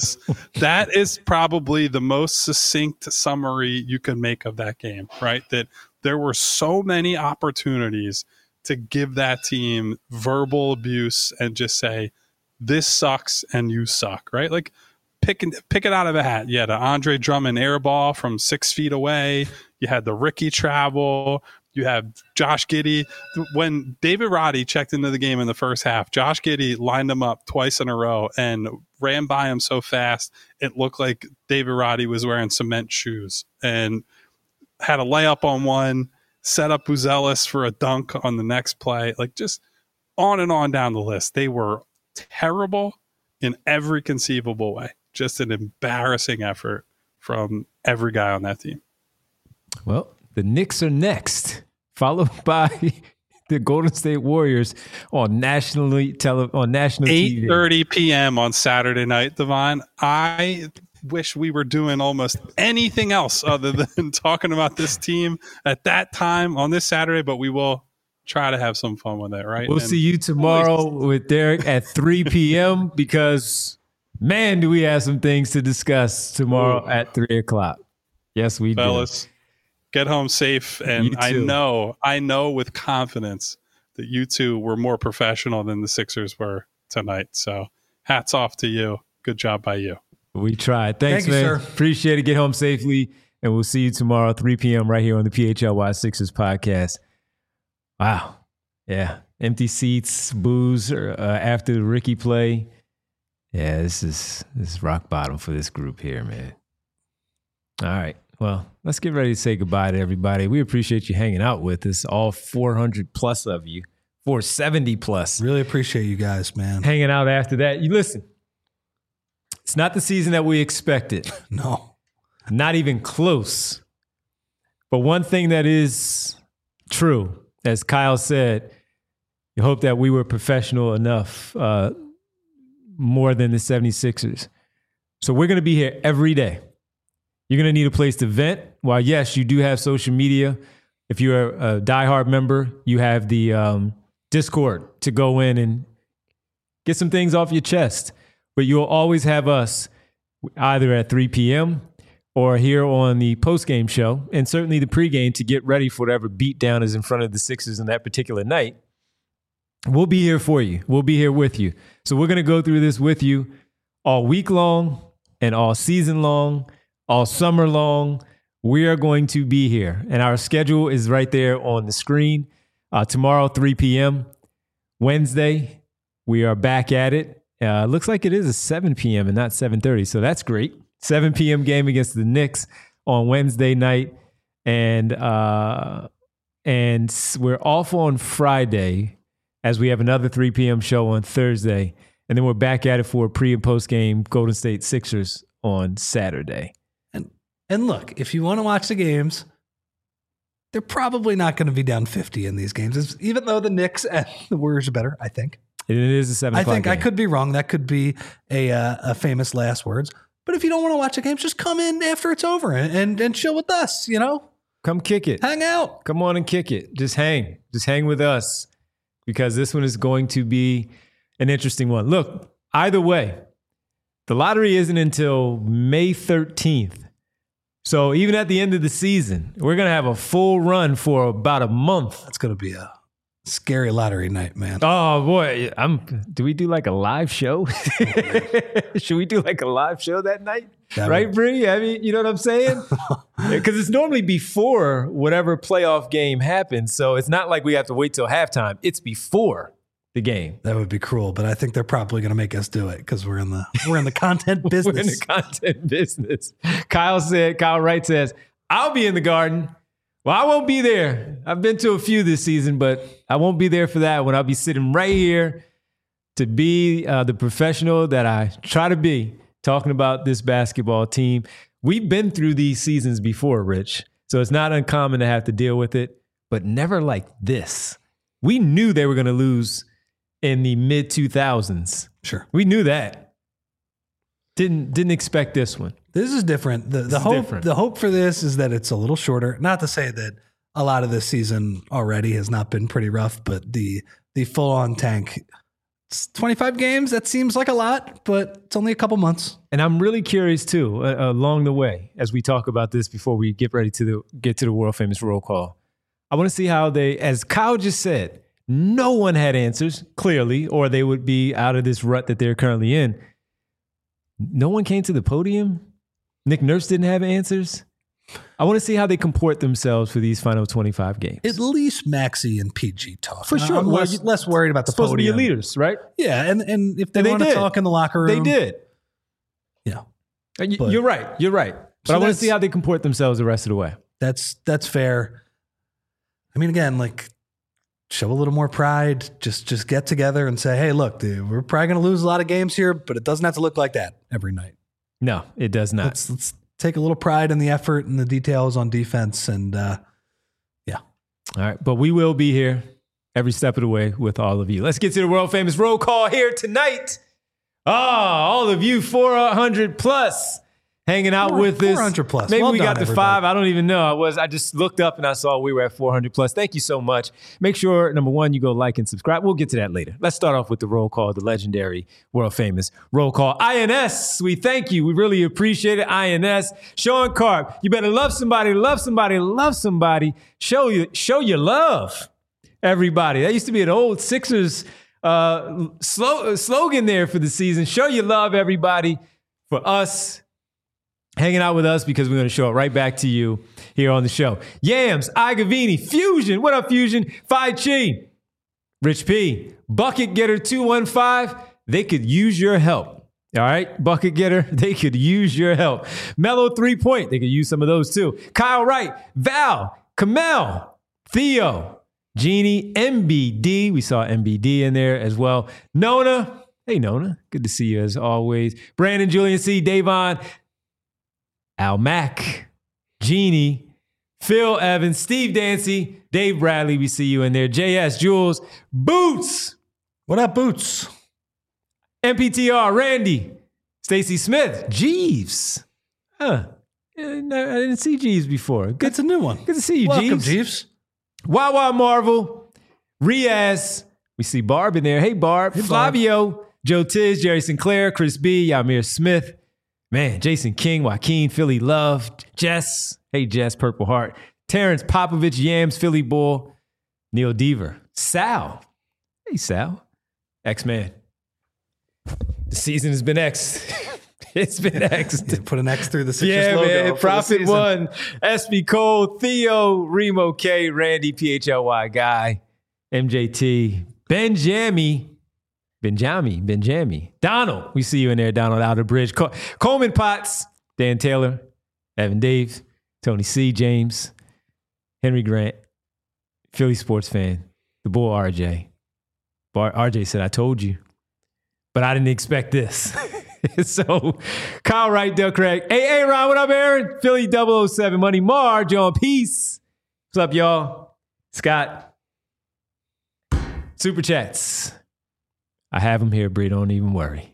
is probably the most succinct summary you can make of that game, right? That there were so many opportunities to give that team verbal abuse and just say, this sucks and you suck, right? Like pick it out of a hat. You had an Andre Drummond air ball from 6 feet away. You had the Ricky travel. You have Josh Giddey. When David Roddy checked into the game in the first half, Josh Giddey lined him up twice in a row and ran by him so fast it looked like David Roddy was wearing cement shoes, and had a layup on one, set up Buzelis for a dunk on the next play. Like, just on and on down the list. They were terrible in every conceivable way. Just an embarrassing effort from every guy on that team. Well, the Knicks are next, followed by the Golden State Warriors on national TV. 8:30 p.m. on Saturday night, Devon. I wish we were doing almost anything else other than talking about this team at that time on this Saturday, but we will try to have some fun with it, right? We'll see you tomorrow with Derek at 3 p.m. because, man, do we have some things to discuss tomorrow at 3 o'clock. Yes, we do. Fellas, get home safe. And I know with confidence that you two were more professional than the Sixers were tonight. So hats off to you. Good job by you. We tried. Thanks, Thank you, man. sir. Appreciate it. Get home safely. And we'll see you tomorrow, 3 p.m. right here on the PHLY Sixers podcast. Wow. Yeah. Empty seats, booze after the Ricky play. Yeah, this is rock bottom for this group here, man. All right. Well, let's get ready to say goodbye to everybody. We appreciate you hanging out with us, all 400 plus of you, 470 plus. Really appreciate you guys, man. Hanging out after that. You listen, it's not the season that we expected. No. Not even close. But one thing that is true, as Kyle said, you hope that we were professional enough, more than the 76ers. So we're going to be here every day. You're going to need a place to vent. While, yes, you do have social media. If you're a diehard member, you have the Discord to go in and get some things off your chest. But you'll always have us either at 3 p.m. or here on the postgame show, and certainly the pregame to get ready for whatever beatdown is in front of the Sixers on that particular night. We'll be here for you. We'll be here with you. So we're going to go through this with you all week long and all season long, all summer long. We are going to be here, and our schedule is right there on the screen. Tomorrow, 3 p.m. Wednesday, we are back at it. Looks like it is a 7 p.m. and not 7:30, so that's great. 7 p.m. game against the Knicks on Wednesday night, and we're off on Friday as we have another 3 p.m. show on Thursday, and then we're back at it for a pre- and post-game Golden State Sixers on Saturday. And look, if you want to watch the games, they're probably not going to be down 50 in these games, even though the Knicks and the Warriors are better, I think. It is a 7 o'clock I think game. I could be wrong. That could be a famous last words. But if you don't want to watch the games, just come in after it's over and chill with us, you know? Come kick it. Hang out. Come on and kick it. Just hang. Just hang with us because this one is going to be an interesting one. Look, either way, the lottery isn't until May 13th. So even at the end of the season, we're going to have a full run for about a month. That's going to be a scary lottery night, man. Oh boy, do we do like a live show? Should we do like a live show that night? Right, Bree? I mean, you know what I'm saying? Because it's normally before whatever playoff game happens. So it's not like we have to wait till halftime. It's before the game. That would be cruel, but I think they're probably going to make us do it because we're in the content business. We're in the content business. Kyle Wright says, I'll be in the Garden. Well, I won't be there. I've been to a few this season, but I won't be there for that one. I'll be sitting right here to be the professional that I try to be, talking about this basketball team. We've been through these seasons before, Rich, so it's not uncommon to have to deal with it, but never like this. We knew they were going to lose in the mid-2000s. Sure. We knew that. Didn't expect this one. This is different. The hope for this is that it's a little shorter. Not to say that a lot of this season already has not been pretty rough, but the full-on tank, it's 25 games. That seems like a lot, but it's only a couple months. And I'm really curious too, along the way, as we talk about this before we get ready to get to the world famous roll call. I want to see how they, as Kyle just said, no one had answers clearly, or they would be out of this rut that they're currently in. No one came to the podium. Nick Nurse didn't have answers. I want to see how they comport themselves for these final 25 games. At least Maxey and PG talk. For sure. I'm less worried about the supposed podium. to be your leaders, right? Yeah, and if they want to talk in the locker room. They did. Yeah. You're right. But So I want to see how they comport themselves the rest of the way. That's fair. I mean, again, like, show a little more pride. Just get together and say, hey, look, dude, we're probably going to lose a lot of games here, but it doesn't have to look like that every night. No, it does not. Let's take a little pride in the effort and the details on defense. And yeah. All right. But we will be here every step of the way with all of you. Let's get to the world famous roll call here tonight. All of you 400 plus hanging out with us. 400 plus. Maybe Well we done, got to everybody. 5. I don't even know. I just looked up and I saw we were at 400 plus. Thank you so much. Make sure, number one, you go like and subscribe. We'll get to that later. Let's start off with the roll call, the legendary, world famous roll call. INS, we thank you. We really appreciate it. INS, Sean Carp, you better love somebody, love somebody, love somebody. Show your love, everybody. That used to be an old Sixers slogan there for the season. Show your love, everybody, for us. Hanging out with us because we're going to show it right back to you here on the show. Yams, Igavini, Fusion. What up, Fusion? Phi Chi, Rich P, Bucket Getter 215. They could use your help. All right, Bucket Getter, they could use your help. Mellow 3 Point, they could use some of those too. Kyle Wright, Val, Kamel, Theo, Jeannie, MBD. We saw MBD in there as well. Nona, hey Nona, good to see you as always. Brandon, Julian C, Davon, Al Mack, Jeannie, Phil Evans, Steve Dancy, Dave Bradley, we see you in there. JS, Jules, Boots. What up, Boots? MPTR, Randy, Stacy Smith, Jeeves. I didn't see Jeeves before. That's a new one. Good to see you, Welcome, Jeeves. Jeeves. Wawa Marvel, Riaz. We see Barb in there. Hey, Barb. Hey, Barb. Flavio, Joe Tiz, Jerry Sinclair, Chris B, Yamir Smith. Man, Jason King, Joaquin, Philly Love, Jess. Hey, Jess, Purple Heart. Terrence Popovich, Yams, Philly Bull. Neil Deaver. Sal. Hey, Sal. X-Man. The season has been X. It's been X. Yeah, put an X through the Sixers Yeah, logo. man. for the Profit season. One, SB Cole, Theo, Remo K, Randy, PHLY Guy, MJT, Benjami, Donald. We see you in there, Donald Outer Bridge. Coleman Potts, Dan Taylor, Evan Dave, Tony C, James, Henry Grant, Philly sports fan, the bull RJ. RJ said, I told you, but I didn't expect this. So, Kyle Wright, Del Craig. Hey, Ron, what up, Aaron? Philly 007, Money Mar, John Peace. What's up, y'all? Scott. Super Chats. I have them here, Bree. Don't even worry.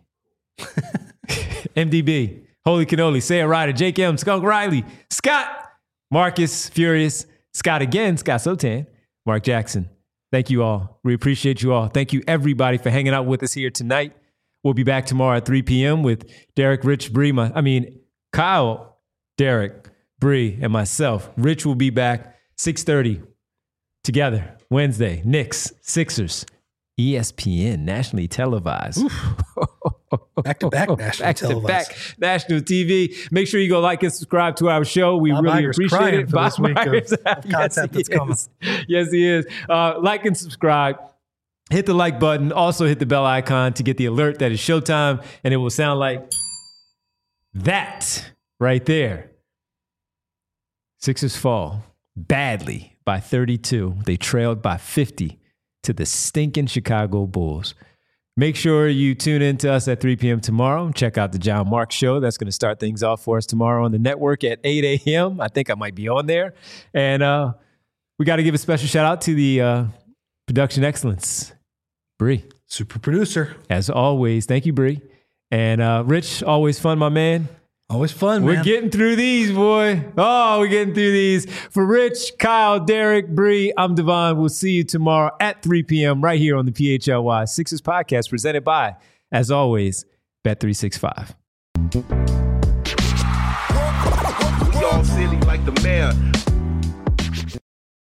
MDB, Holy Cannoli, Sarah Ryder, Jake M, Skunk Riley, Scott, Marcus, Furious, Scott again, Scott Sotan, Mark Jackson. Thank you all. We appreciate you all. Thank you, everybody, for hanging out with us here tonight. We'll be back tomorrow at 3 p.m. with Derek, Rich, Bree, Kyle, Derek, Bree, and myself. Rich will be back 6:30 together Wednesday. Knicks, Sixers, ESPN, nationally televised. Back-to-back nationally televised. Back national TV. Make sure you go like and subscribe to our show. We Bob really Iger's appreciate crying it. for this week Myers. of content that's coming. Yes, he is. Like and subscribe. Hit the like button. Also hit the bell icon to get the alert that it's showtime, and it will sound like that right there. Sixers fall badly by 32. They trailed by 50 to the stinking Chicago Bulls. Make sure you tune in to us at 3 p.m. tomorrow. Check out the John Mark Show. That's going to start things off for us tomorrow on the network at 8 a.m. I think I might be on there. And we got to give a special shout out to the production excellence, Bree. Super producer. As always. Thank you, Bree. And Rich, always fun, my man. Always fun, man. We're getting through these, boy. Oh, we're getting through these. For Rich, Kyle, Derek, Bree, I'm Devon. We'll see you tomorrow at 3 p.m. right here on the PHLY Sixers podcast presented by, as always, Bet365. We all silly like the mayor.